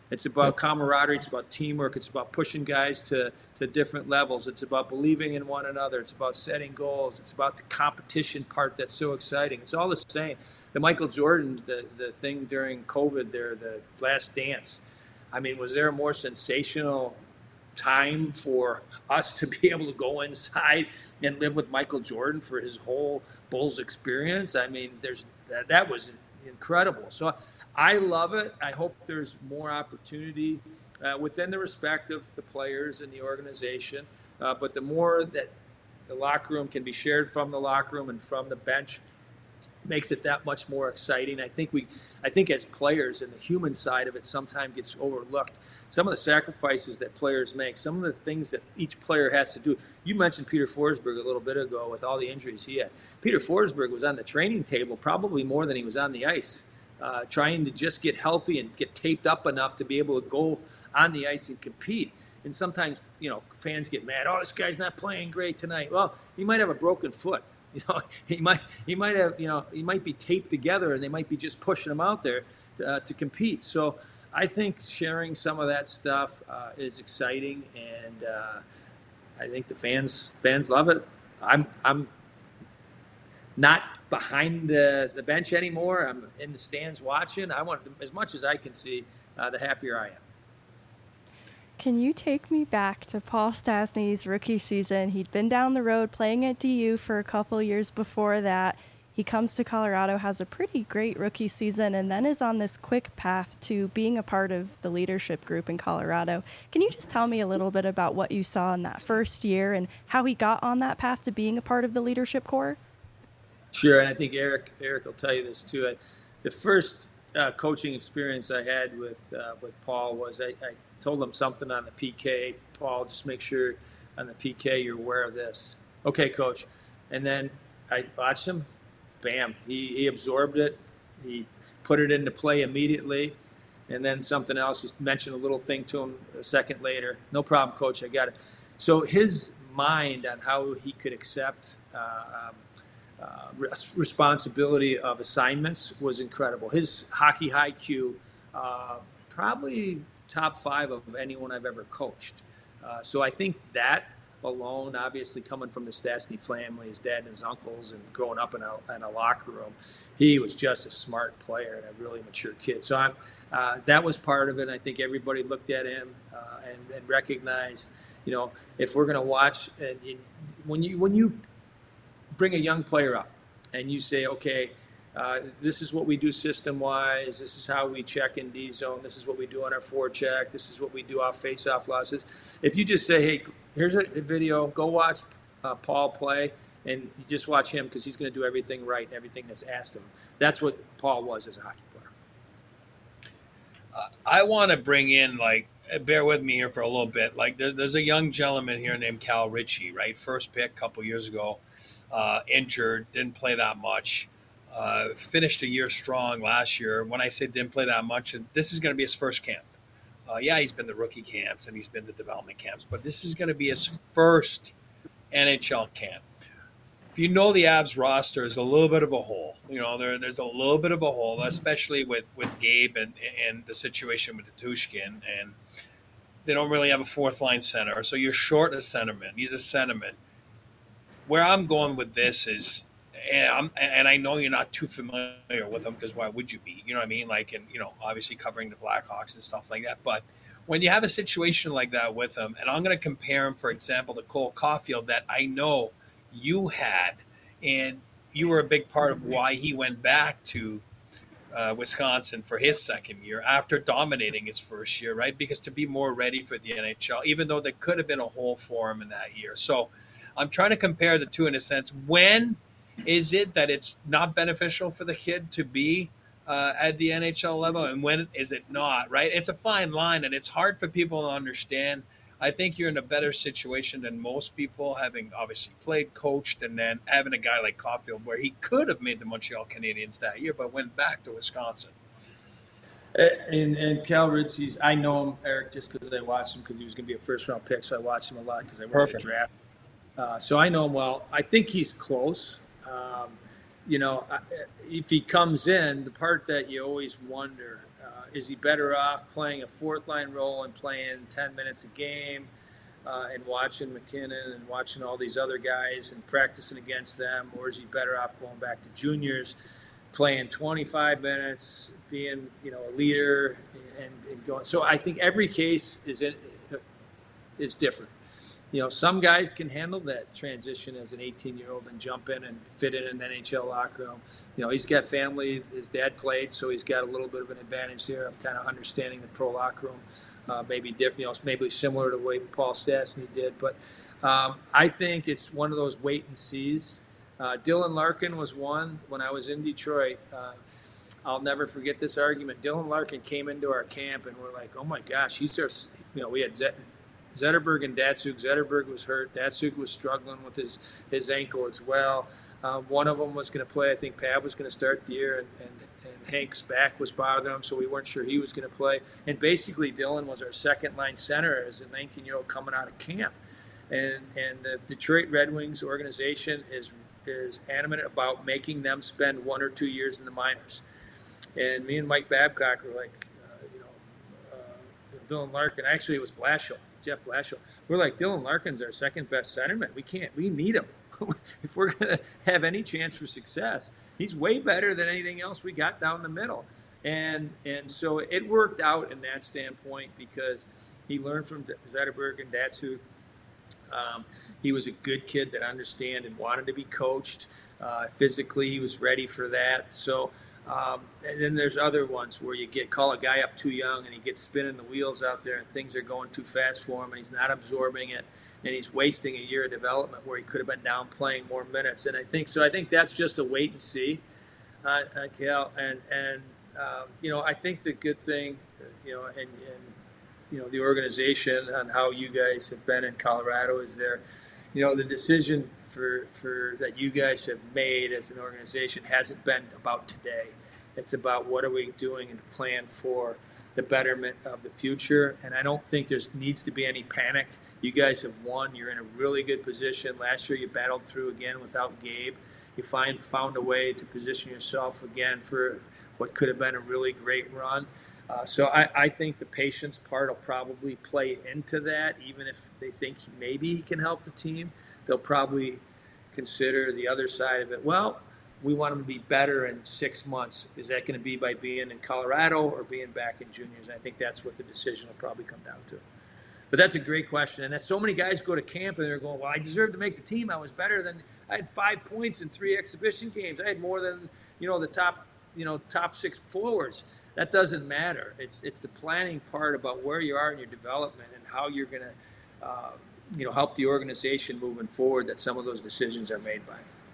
It's about camaraderie. It's about teamwork. It's about pushing guys to, to different levels. It's about believing in one another. It's about setting goals. It's about the competition part that's so exciting. It's all the same. The Michael Jordan, the, the thing during COVID there, the Last Dance, I mean, was there a more sensational time for us to be able to go inside and live with Michael Jordan for his whole Bulls experience? I mean, there's that, that was incredible. So I love it. I hope there's more opportunity uh, within the respect of the players and the organization. Uh, but the more that the locker room can be shared from the locker room and from the bench, makes it that much more exciting. I think we, I think as players, and the human side of it sometimes gets overlooked. Some of the sacrifices that players make, some of the things that each player has to do. You mentioned Peter Forsberg a little bit ago with all the injuries he had. Peter Forsberg was on the training table probably more than he was on the ice, uh, trying to just get healthy and get taped up enough to be able to go on the ice and compete. And sometimes, you know, fans get mad. Oh, this guy's not playing great tonight. Well, he might have a broken foot. You know, he might he might have you know he might be taped together, and they might be just pushing him out there to, uh, to compete. So I think sharing some of that stuff uh, is exciting, and uh, I think the fans fans love it. I'm I'm not behind the, the bench anymore. I'm in the stands watching. I want as much as I can see. Uh, the happier I am. Can you take me back to Paul Stastny's rookie season? He'd been down the road playing at D U for a couple years before that. He comes to Colorado, has a pretty great rookie season, and then is on this quick path to being a part of the leadership group in Colorado. Can you just tell me a little bit about what you saw in that first year and how he got on that path to being a part of the leadership corps? Sure, and I think Eric Eric will tell you this too. I, the first uh, coaching experience I had with uh, with Paul was I, I told him something on the P K. Paul, just make sure on the P K you're aware of this. Okay, coach. And then I watched him. Bam. He, he absorbed it. He put it into play immediately. And then something else. He mentioned a little thing to him a second later. No problem, coach. I got it. So his mind on how he could accept uh, um, uh, responsibility of assignments was incredible. His hockey I Q, uh, probably top five of anyone I've ever coached. Uh, so I think that alone, obviously coming from the Stastny family, his dad and his uncles, and growing up in a, in a locker room, he was just a smart player and a really mature kid. So I'm, uh, that was part of it. I think everybody looked at him uh, and, and recognized, you know, if we're going to watch, and, and when you when you bring a young player up and you say, okay, Uh, this is what we do system-wise. This is how we check in D-zone. This is what we do on our forecheck. This is what we do off face-off losses. If you just say, hey, here's a video, go watch uh, Paul play, and you just watch him because he's going to do everything right and everything that's asked of him. That's what Paul was as a hockey player. Uh, I want to bring in, like, bear with me here for a little bit. Like, there, there's a young gentleman here named Cal Ritchie, right? First pick a couple years ago, uh, injured, didn't play that much. Uh, finished a year strong last year. When I say didn't play that much, this is going to be his first camp. Uh, yeah, he's been to rookie camps and he's been to development camps, but this is going to be his first N H L camp. If you know the Avs roster is a little bit of a hole. You know, there, there's a little bit of a hole, especially with, with Gabe and, and the situation with Tushkin. And they don't really have a fourth line center. So you're short a centerman. He's a centerman. Where I'm going with this is, And, I'm, and I know you're not too familiar with him because why would you be? You know what I mean? Like, and, you know, obviously covering the Blackhawks and stuff like that. But when you have a situation like that with him, and I'm going to compare him, for example, to Cole Caulfield that I know you had, and you were a big part of why he went back to uh, Wisconsin for his second year after dominating his first year, right? Because to be more ready for the N H L, even though there could have been a hole for him in that year. So I'm trying to compare the two in a sense. When is it that it's not beneficial for the kid to be uh, at the N H L level, and when is it not, right? It's a fine line, and it's hard for people to understand. I think you're in a better situation than most people, having obviously played, coached, and then having a guy like Caulfield where he could have made the Montreal Canadiens that year, but went back to Wisconsin. And, and Cal Ritchie's, I know him, Eric, just because I watched him because he was going to be a first-round pick, so I watched him a lot because I went to the draft. Uh, so I know him well. I think he's close. Um, you know, if he comes in, the part that you always wonder uh, is he better off playing a fourth line role and playing ten minutes a game uh, and watching McKinnon and watching all these other guys and practicing against them, or is he better off going back to juniors, playing twenty-five minutes, being, you know, a leader and, and going. So I think every case is in, is different. You know, some guys can handle that transition as an eighteen-year-old and jump in and fit in an N H L locker room. You know, he's got family. His dad played, so he's got a little bit of an advantage there of kind of understanding the pro locker room. Uh, maybe different, you know, maybe similar to the way Paul Stastny did. But um, I think it's one of those wait and sees. Uh, Dylan Larkin was one when I was in Detroit. Uh, I'll never forget this argument. Dylan Larkin came into our camp, and we're like, oh my gosh, he's our, you know, we had Z- Zetterberg and Datsuk. Zetterberg was hurt. Datsuk was struggling with his, his ankle as well. Uh, one of them was going to play. I think Pav was going to start the year, and, and, and Hank's back was bothering him, so we weren't sure he was going to play. And basically, Dylan was our second-line center as a nineteen-year-old coming out of camp. And and the Detroit Red Wings organization is is animate about making them spend one or two years in the minors. And me and Mike Babcock were like, uh, you know, uh, Dylan Larkin. Actually, it was Blashill. Jeff Blashill. We're like, Dylan Larkin's our second best centerman. We can't, we need him. If we're going to have any chance for success, he's way better than anything else we got down the middle. And and so it worked out in that standpoint because he learned from Zetterberg and Datsuk. Um, he was a good kid that understood and wanted to be coached. Uh, physically, he was ready for that. So, Um, and then there's other ones where you get call a guy up too young and he gets spinning the wheels out there and things are going too fast for him and he's not absorbing it and he's wasting a year of development where he could have been down playing more minutes. And I think so. I think that's just a wait and see, uh, uh, Cal. And and um, you know, I think the good thing, you know, and, and you know, the organization on how you guys have been in Colorado is there. You know, the decision for for that you guys have made as an organization hasn't been about today. It's about what are we doing and plan for the betterment of the future. And I don't think there needs to be any panic. You guys have won. You're in a really good position. Last year you battled through again without Gabe. You find found a way to position yourself again for what could have been a really great run. Uh, so I, I think the patience part will probably play into that. Even if they think maybe he can help the team, they'll probably consider the other side of it. Well, we want him to be better in six months. Is that going to be by being in Colorado or being back in juniors? And I think that's what the decision will probably come down to. But that's a great question. And that's so many guys go to camp and they're going, well, I deserve to make the team. I was better than – I had five points in three exhibition games. I had more than, you know, the top, you know, top six forwards. That doesn't matter. It's it's the planning part about where you are in your development and how you're going to, uh, you know, help the organization moving forward that some of those decisions are made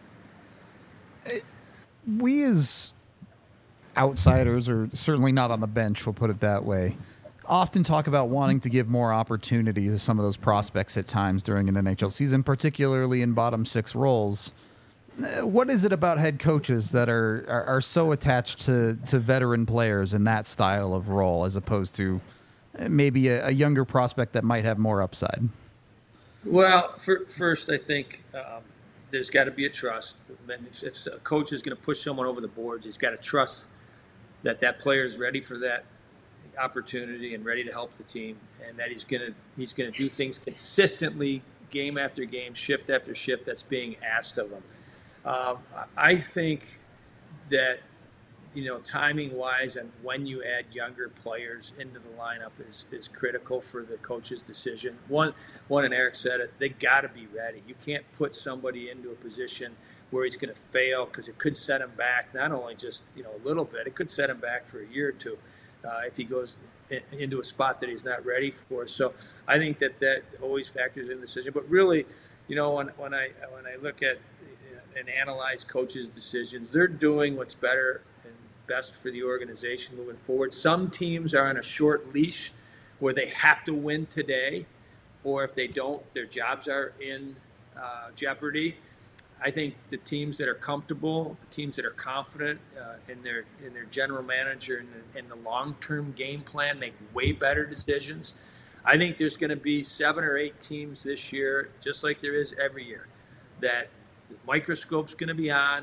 by. We as outsiders, or certainly not on the bench, we'll put it that way, often talk about wanting to give more opportunity to some of those prospects at times during an N H L season, particularly in bottom six roles. What is it about head coaches that are, are, are so attached to, to veteran players in that style of role as opposed to maybe a, a younger prospect that might have more upside? Well, for, first, I think um, there's got to be a trust. If, if a coach is going to push someone over the boards, he's got to trust that that player is ready for that opportunity and ready to help the team, and that he's going to he's going to do things consistently, game after game, shift after shift that's being asked of him. Um, I think that, you know, timing-wise and when you add younger players into the lineup is, is critical for the coach's decision. One, one, and Eric said it, they got to be ready. You can't put somebody into a position where he's going to fail because it could set him back, not only just, you know, a little bit, it could set him back for a year or two uh, if he goes in, into a spot that he's not ready for. So I think that that always factors in the decision. But really, you know, when, when I when I look at and analyze coaches' decisions, they're doing what's better and best for the organization moving forward. Some teams are on a short leash where they have to win today, or if they don't, their jobs are in uh, jeopardy. I think the teams that are comfortable, the teams that are confident uh, in their in their general manager and the, in the long-term game plan make way better decisions. I think there's going to be seven or eight teams this year, just like there is every year, that the microscope's going to be on,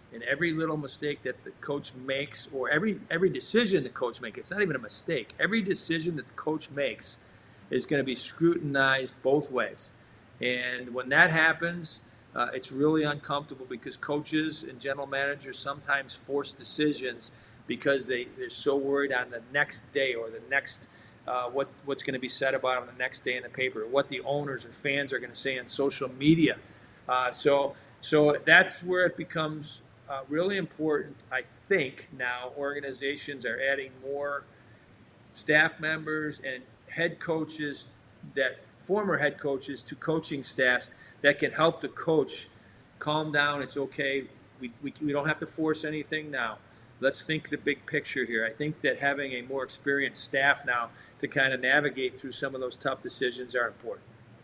And every little mistake that the coach makes, or every every decision the coach makes, it's not even a mistake. Every decision that the coach makes is going to be scrutinized both ways. And when that happens, uh, it's really uncomfortable because coaches and general managers sometimes force decisions because they, they're so worried on the next day or the next uh, what what's going to be said about them the next day in the paper, what the owners or fans are going to say on social media. Uh, so so that's where it becomes uh, really important. I think now organizations are adding more staff members and head coaches, that former head coaches, to coaching staffs that can help the coach calm down. It's okay. We, we, we don't have to force anything now. Let's think the big picture here. I think that having a more experienced staff now to kind of navigate through some of those tough decisions are important.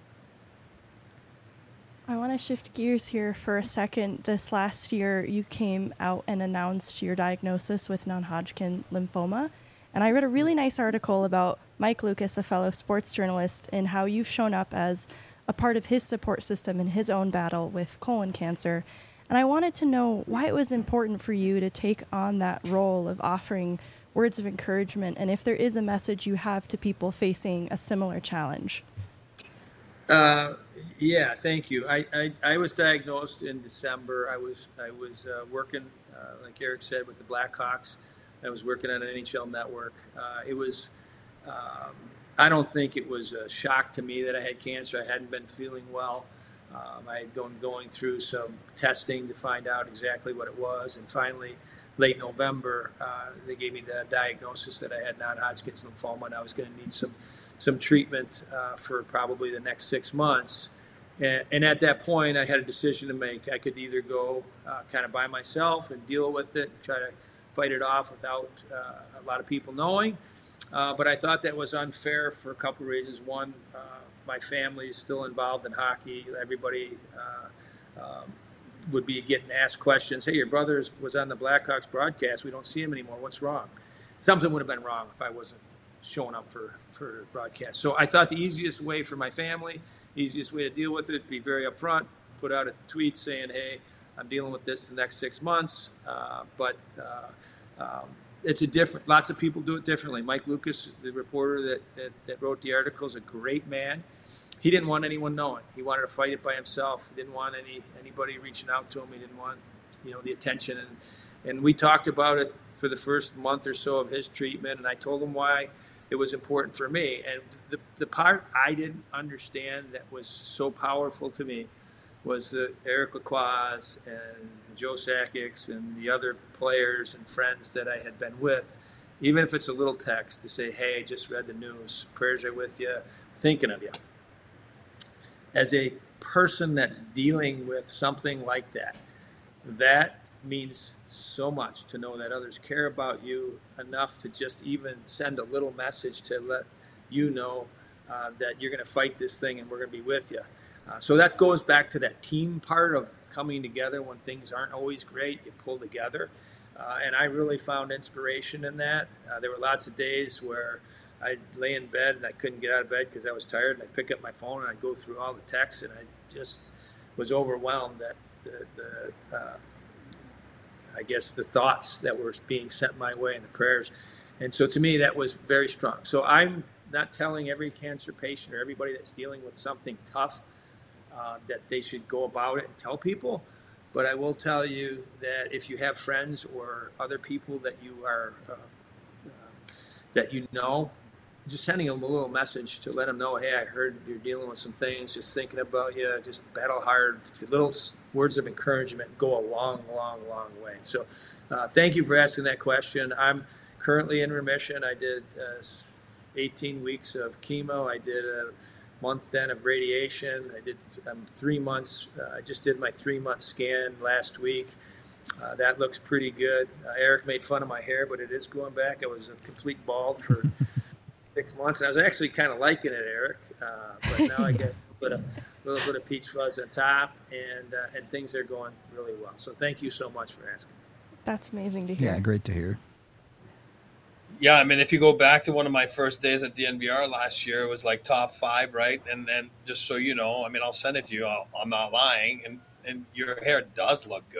I want to shift gears here for a second. This last year, you came out and announced your diagnosis with non-Hodgkin lymphoma. And I read a really nice article about Mike Lucas, a fellow sports journalist, and how you've shown up as a part of his support system in his own battle with colon cancer. And I wanted to know why it was important for you to take on that role of offering words of encouragement, and if there is a message you have to people facing a similar challenge. Uh, yeah, thank you. I, I, I was diagnosed in December. I was I was uh, working, uh, like Eric said, with the Blackhawks. I was working on an N H L network. Uh, it was, um, I don't think it was a shock to me that I had cancer. I hadn't been feeling well. Um, I had gone going through some testing to find out exactly what it was. And finally, late November, uh, they gave me the diagnosis that I had non-Hodgkin's lymphoma, and I was going to need some some treatment uh, for probably the next six months. And, and at that point, I had a decision to make. I could either go uh, kind of by myself and deal with it, try to fight it off without uh, a lot of people knowing. Uh, but I thought that was unfair for a couple of reasons. One, uh, my family is still involved in hockey. Everybody uh, um, would be getting asked questions. Hey, your brother was on the Blackhawks broadcast. We don't see him anymore. What's wrong? Something would have been wrong if I wasn't showing up for, for broadcast. So I thought the easiest way for my family, easiest way to deal with it, be very upfront, put out a tweet saying, hey, I'm dealing with this the next six months. Uh, but uh, um, it's a different, lots of people do it differently. Mike Lucas, the reporter that, that, that wrote the article, is a great man. He didn't want anyone knowing. He wanted to fight it by himself. He didn't want any anybody reaching out to him. He didn't want, you know, the attention. And, and we talked about it for the first month or so of his treatment, and I told him why it was important for me. And the, the part I didn't understand that was so powerful to me was the Eric Lacroix and Joe Sakic and the other players and friends that I had been with, even if it's a little text to say, hey, just read the news, prayers are with you, thinking of you. As a person that's dealing with something like that, that means so much to know that others care about you enough to just even send a little message to let you know uh, that you're going to fight this thing and we're going to be with you. Uh, so that goes back to that team part of coming together when things aren't always great. You pull together. Uh, and I really found inspiration in that. Uh, there were lots of days where I'd lay in bed and I couldn't get out of bed because I was tired, and I'd pick up my phone and I'd go through all the texts, and I just was overwhelmed at the, the uh, I guess, the thoughts that were being sent my way and the prayers. And so to me, that was very strong. So I'm not telling every cancer patient or everybody that's dealing with something tough uh, that they should go about it and tell people. But I will tell you that if you have friends or other people that you are uh, uh, that you know, just sending them a little message to let them know, hey, I heard you're dealing with some things, just thinking about you, just battle hard. Little words of encouragement go a long, long, long way. So uh, thank you for asking that question. I'm currently in remission. I did uh, eighteen weeks of chemo. I did a month then of radiation. I did um, three months. Uh, I just did my three-month scan last week. Uh, that looks pretty good. Uh, Eric made fun of my hair, but it is going back. I was a complete bald for six months, and I was actually kind of liking it, Eric. Uh, but now I get a little bit of, a little bit of peach fuzz on top, and uh, and things are going really well. So thank you so much for asking. That's amazing to hear. Yeah, great to hear. Yeah, I mean, if you go back to one of my first days at the N V R last year, it was like top five, right? And then just so you know, I mean, I'll send it to you. I'll, I'm not lying. And, and your hair does look good.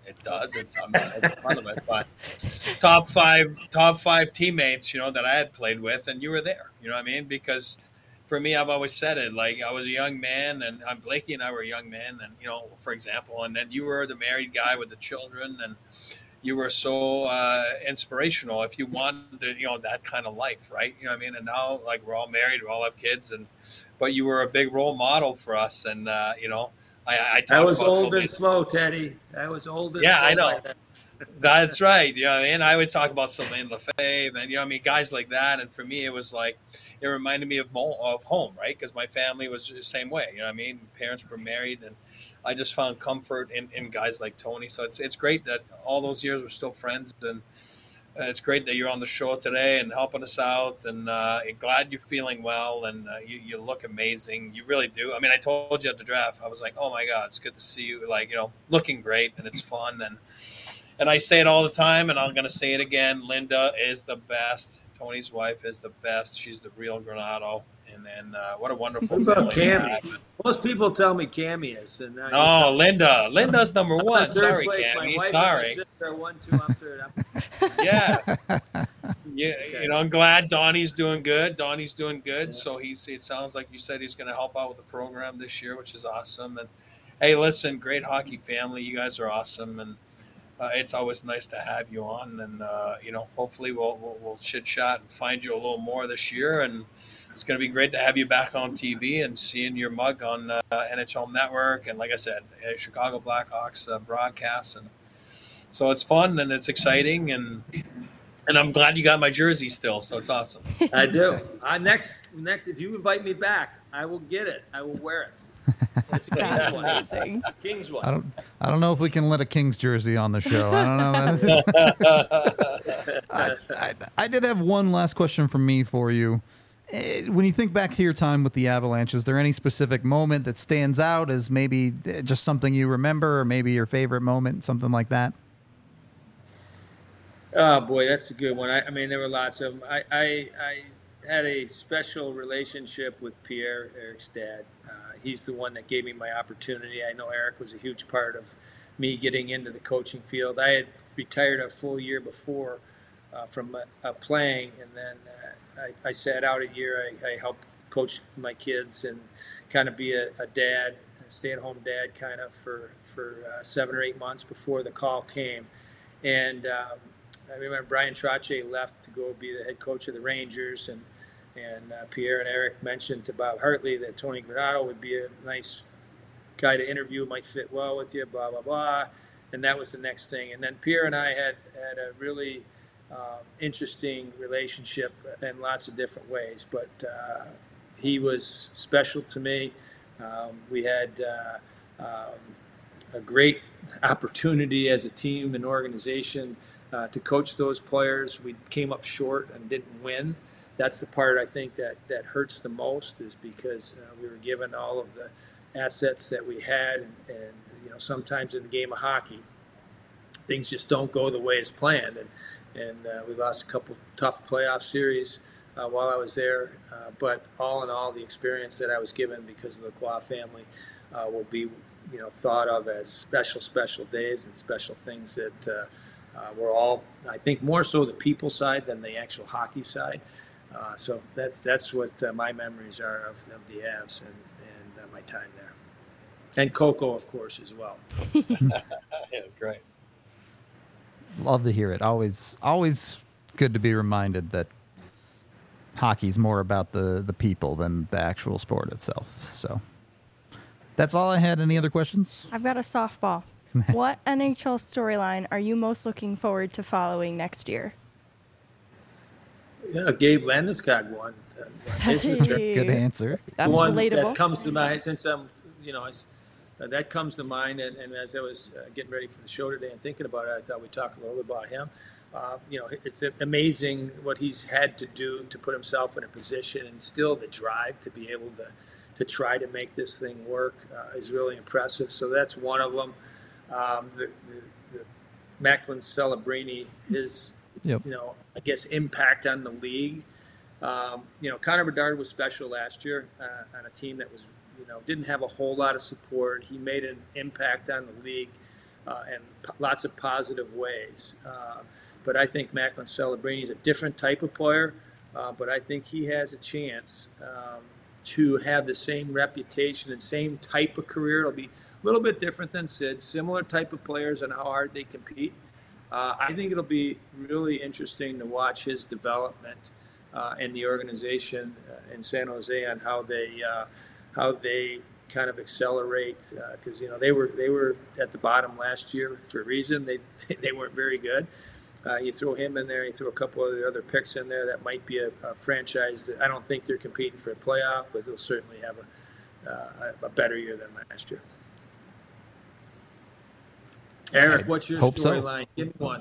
it does. It's I'm not making fun of it, but top five, top five teammates, you know, that I had played with, and you were there. You know what I mean? Because for me, I've always said it. Like I was a young man, and I'm Blakey and I were young men, and you know, for example, and then you were the married guy with the children, and you were so uh, inspirational. If you wanted, you know, that kind of life, right? You know what I mean? And now, like, we're all married, we all have kids, and but you were a big role model for us, and uh, you know, I, I, I was about old so and slow, Teddy. I was old and yeah, slow. I know. That's right. You know what I mean? I always talk about Sylvain Lefebvre, and you know what I mean, guys like that. And for me, it was like it reminded me of mo- of home, right? Because my family was the same way. You know what I mean? Parents were married, and I just found comfort in, in guys like Tony. So it's it's great that all those years we're still friends, and uh, it's great that you're on the show today and helping us out. And uh, glad you're feeling well, and uh, you you look amazing. You really do. I mean, I told you at the draft, I was like, oh my God, it's good to see you. Like, you know, looking great, and it's fun. And and I say it all the time, and I'm going to say it again. Linda is the best. Tony's wife is the best. She's the real Granado. And then uh, what a wonderful What about family. Cammy? Most people tell me Cammy is. And now No, you're Linda. Linda's number I'm one. in third Sorry, place. My Cammy. wife Sorry. and my sister are one, two, I'm third. I'm... Yes. You, Okay. you know, I'm glad Donnie's doing good. Donnie's doing good. Yeah. So he's. It sounds like you said he's going to help out with the program this year, which is awesome. And hey, listen, great hockey family. You guys are awesome, and uh, it's always nice to have you on. And uh, you know, hopefully we'll, we'll we'll chit chat and find you a little more this year. And it's going to be great to have you back on T V and seeing your mug on uh, N H L Network. And like I said, uh, Chicago Blackhawks uh, broadcasts, and so it's fun and it's exciting. And and I'm glad you got my jersey still. So it's awesome. I do. Uh, next, next, if you invite me back, I will get it. I will wear it. That's a King's one. Amazing. King's one. I don't. I don't know if we can let a Kings jersey on the show. I don't know. I, I, I did have one last question from me for you. Eh, When you think back to your time with the Avalanche, is there any specific moment that stands out as maybe eh, just something you remember, or maybe your favorite moment, something like that? Oh boy, that's a good one. I, I mean, there were lots of them. I, I, I had a special relationship with Pierre, Eric's dad. Uh, he's the one that gave me my opportunity. I know Eric was a huge part of me getting into the coaching field. I had retired a full year before uh, from uh, uh, playing, and then uh, I, I sat out a year. I, I helped coach my kids and kind of be a, a dad, a stay-at-home dad, kind of for for uh, seven or eight months before the call came, and. Um, I remember Brian Trottier left to go be the head coach of the Rangers, and and uh, Pierre and Eric mentioned to Bob Hartley that Tony Granato would be a nice guy to interview, might fit well with you, blah, blah, blah. And that was the next thing. And then Pierre and I had, had a really um, interesting relationship in lots of different ways, but uh, he was special to me. Um, we had uh, um, a great opportunity as a team and organization Uh, to coach those players. We came up short and didn't win. That's the part I think that, that hurts the most, is because uh, we were given all of the assets that we had, and, and you know, sometimes in the game of hockey, things just don't go the way it's planned, and and uh, we lost a couple tough playoff series uh, while I was there. Uh, but all in all, the experience that I was given because of the Qua family uh, will be, you know, thought of as special, special days and special things that. Uh, Uh, we're all, I think, more so the people side than the actual hockey side. Uh, so that's that's what uh, my memories are of, of the Avs and, and uh, my time there. And Coco, of course, as well. Yeah, it's great. Love to hear it. Always, always good to be reminded that hockey's more about the the people than the actual sport itself. So that's all I had. Any other questions? I've got a softball. What N H L storyline are you most looking forward to following next year? Yeah, Gabe Landeskog one. Uh, his return. Good answer. That's one relatable. that comes to mind since I'm, you know, I, uh, that comes to mind. And, and as I was uh, getting ready for the show today and thinking about it, I thought we'd talk a little bit about him. Uh, you know, it's amazing what he's had to do to put himself in a position, and still the drive to be able to to try to make this thing work uh, is really impressive. So that's one of them. Um, the, the, the Macklin Celebrini, his, Yep. you know, I guess impact on the league. Um, you know, Connor Bedard was special last year uh, on a team that was, you know, didn't have a whole lot of support. He made an impact on the league uh, in p- lots of positive ways. Uh, but I think Macklin Celebrini is a different type of player, uh, but I think he has a chance um, to have the same reputation and same type of career. It'll be a little bit different than Sid, similar type of players and how hard they compete. Uh, I think it'll be really interesting to watch his development uh, in the organization uh, in San Jose on how they uh, how they kind of accelerate, because uh, you know they were they were at the bottom last year for a reason. They they weren't very good. Uh, you throw him in there, you throw a couple of the other picks in there. That might be a, a franchise that I don't think they're competing for a playoff, but they'll certainly have a uh, a better year than last year. Eric, what's your storyline? So. Give me one.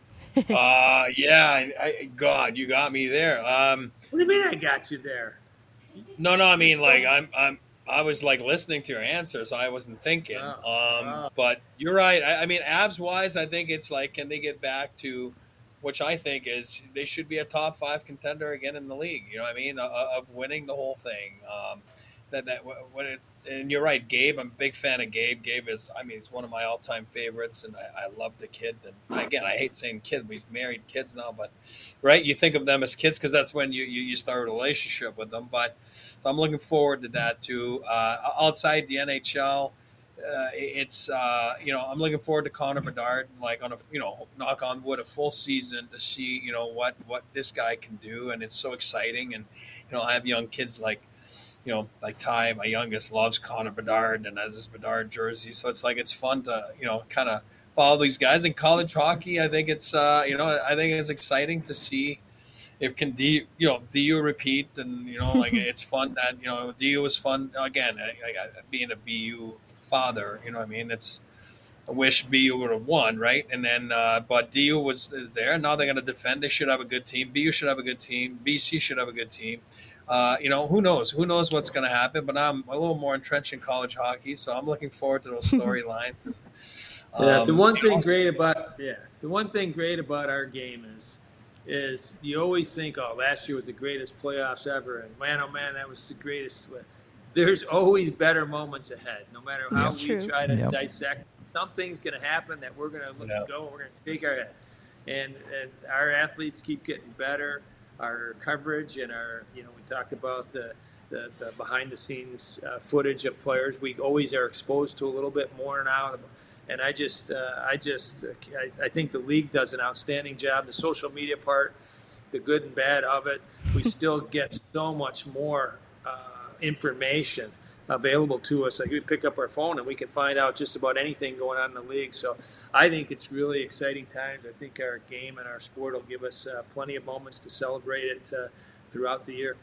uh, yeah, I, I, God, you got me there. Um, what do you mean I got you there? No, no, I mean like I'm, I'm, I was like listening to your answer, so I wasn't thinking. Oh, um, oh. But you're right. I, I mean, abs wise, I think it's like, can they get back to, which I think is they should be a top five contender again in the league. You know what I mean? Uh, of winning the whole thing. Um, that that when it, and you're right, Gabe. I'm a big fan of Gabe. Gabe is, I mean, he's one of my all-time favorites, and I, I love the kid. And again, I hate saying kid. He's married kids now, but right, you think of them as kids because that's when you, you you start a relationship with them. But so I'm looking forward to that too. Uh, outside the N H L, uh, it's uh, you know I'm looking forward to Connor Bedard, like on a you know knock on wood, a full season to see you know what what this guy can do, and it's so exciting. And you know I have young kids like. You know, like Ty, my youngest, loves Connor Bedard and has his Bedard jersey. So it's like it's fun to, you know, kind of follow these guys. In college hockey, I think it's, uh, you know, I think it's exciting to see if can D, you know, D U repeat. And, you know, like it's fun that, you know, D U is fun. Again, I, I, being a B U father, you know what I mean? It's, I wish B U would have won, right? And then, uh, but D U was is there. Now they're going to defend. They should have a good team. B U should have a good team. B C should have a good team. Uh, you know, who knows? Who knows what's going to happen? But I'm a little more entrenched in college hockey, so I'm looking forward to those storylines. um, yeah, the one thing also, great about yeah, the one thing great about our game is, is you always think, oh, last year was the greatest playoffs ever, and man, oh man, that was the greatest. There's always better moments ahead, no matter how That's we true. try to yep. dissect. Something's going to happen that we're going to look yep. and go, and we're going to shake our head, and and our athletes keep getting better. Our coverage and our, you know, we talked about the, the, the behind the scenes uh, footage of players. We always are exposed to a little bit more now. And I just, uh, I just, uh, I, I think the league does an outstanding job. The social media part, the good and bad of it, we still get so much more uh, information available to us. Like we pick up our phone and we can find out just about anything going on in the league. So I think it's really exciting times. I think our game and our sport will give us uh, plenty of moments to celebrate it uh, throughout the year.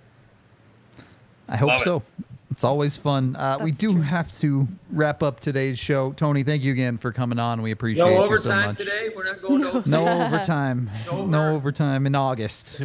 I hope Love so. It. It's always fun. Uh, we do true. have to wrap up today's show. Tony, thank you again for coming on. We appreciate no you so overtime much. today. We're not going to overtime. No overtime. no, no overtime in August.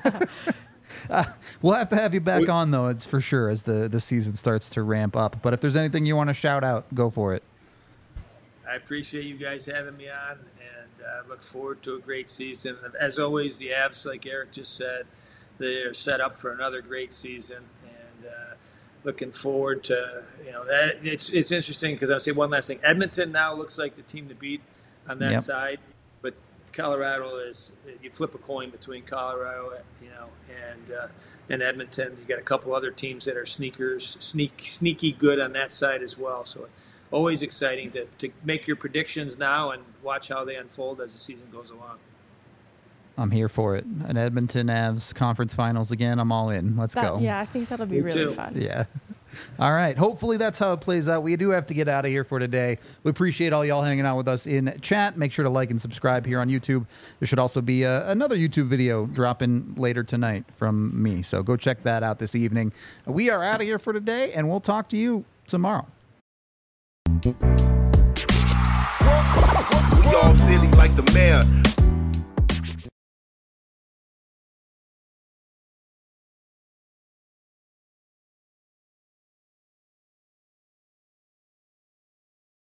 Uh, we'll have to have you back on, though, it's for sure, as the, the season starts to ramp up. But if there's anything you want to shout out, go for it. I appreciate you guys having me on, and I uh, look forward to a great season. As always, the Avs, like Eric just said, they're set up for another great season, and uh, looking forward to, you know, that. It's, it's interesting because I'll say one last thing. Edmonton now looks like the team to beat on that yep. side, but Colorado is, you flip a coin between Colorado, you know, and uh, and Edmonton. You got a couple other teams that are sneakers, sneak, sneaky good on that side as well. So always exciting to, to make your predictions now and watch how they unfold as the season goes along. I'm here for it. An Edmonton Avs conference finals again. I'm all in. Let's that, go. Yeah, I think that'll be Me really too. fun. Yeah. All right. Hopefully that's how it plays out. We do have to get out of here for today. We appreciate all y'all hanging out with us in chat. Make sure to like and subscribe here on YouTube. There should also be a, another YouTube video dropping later tonight from me. So go check that out this evening. We are out of here for today, and we'll talk to you tomorrow. We all silly like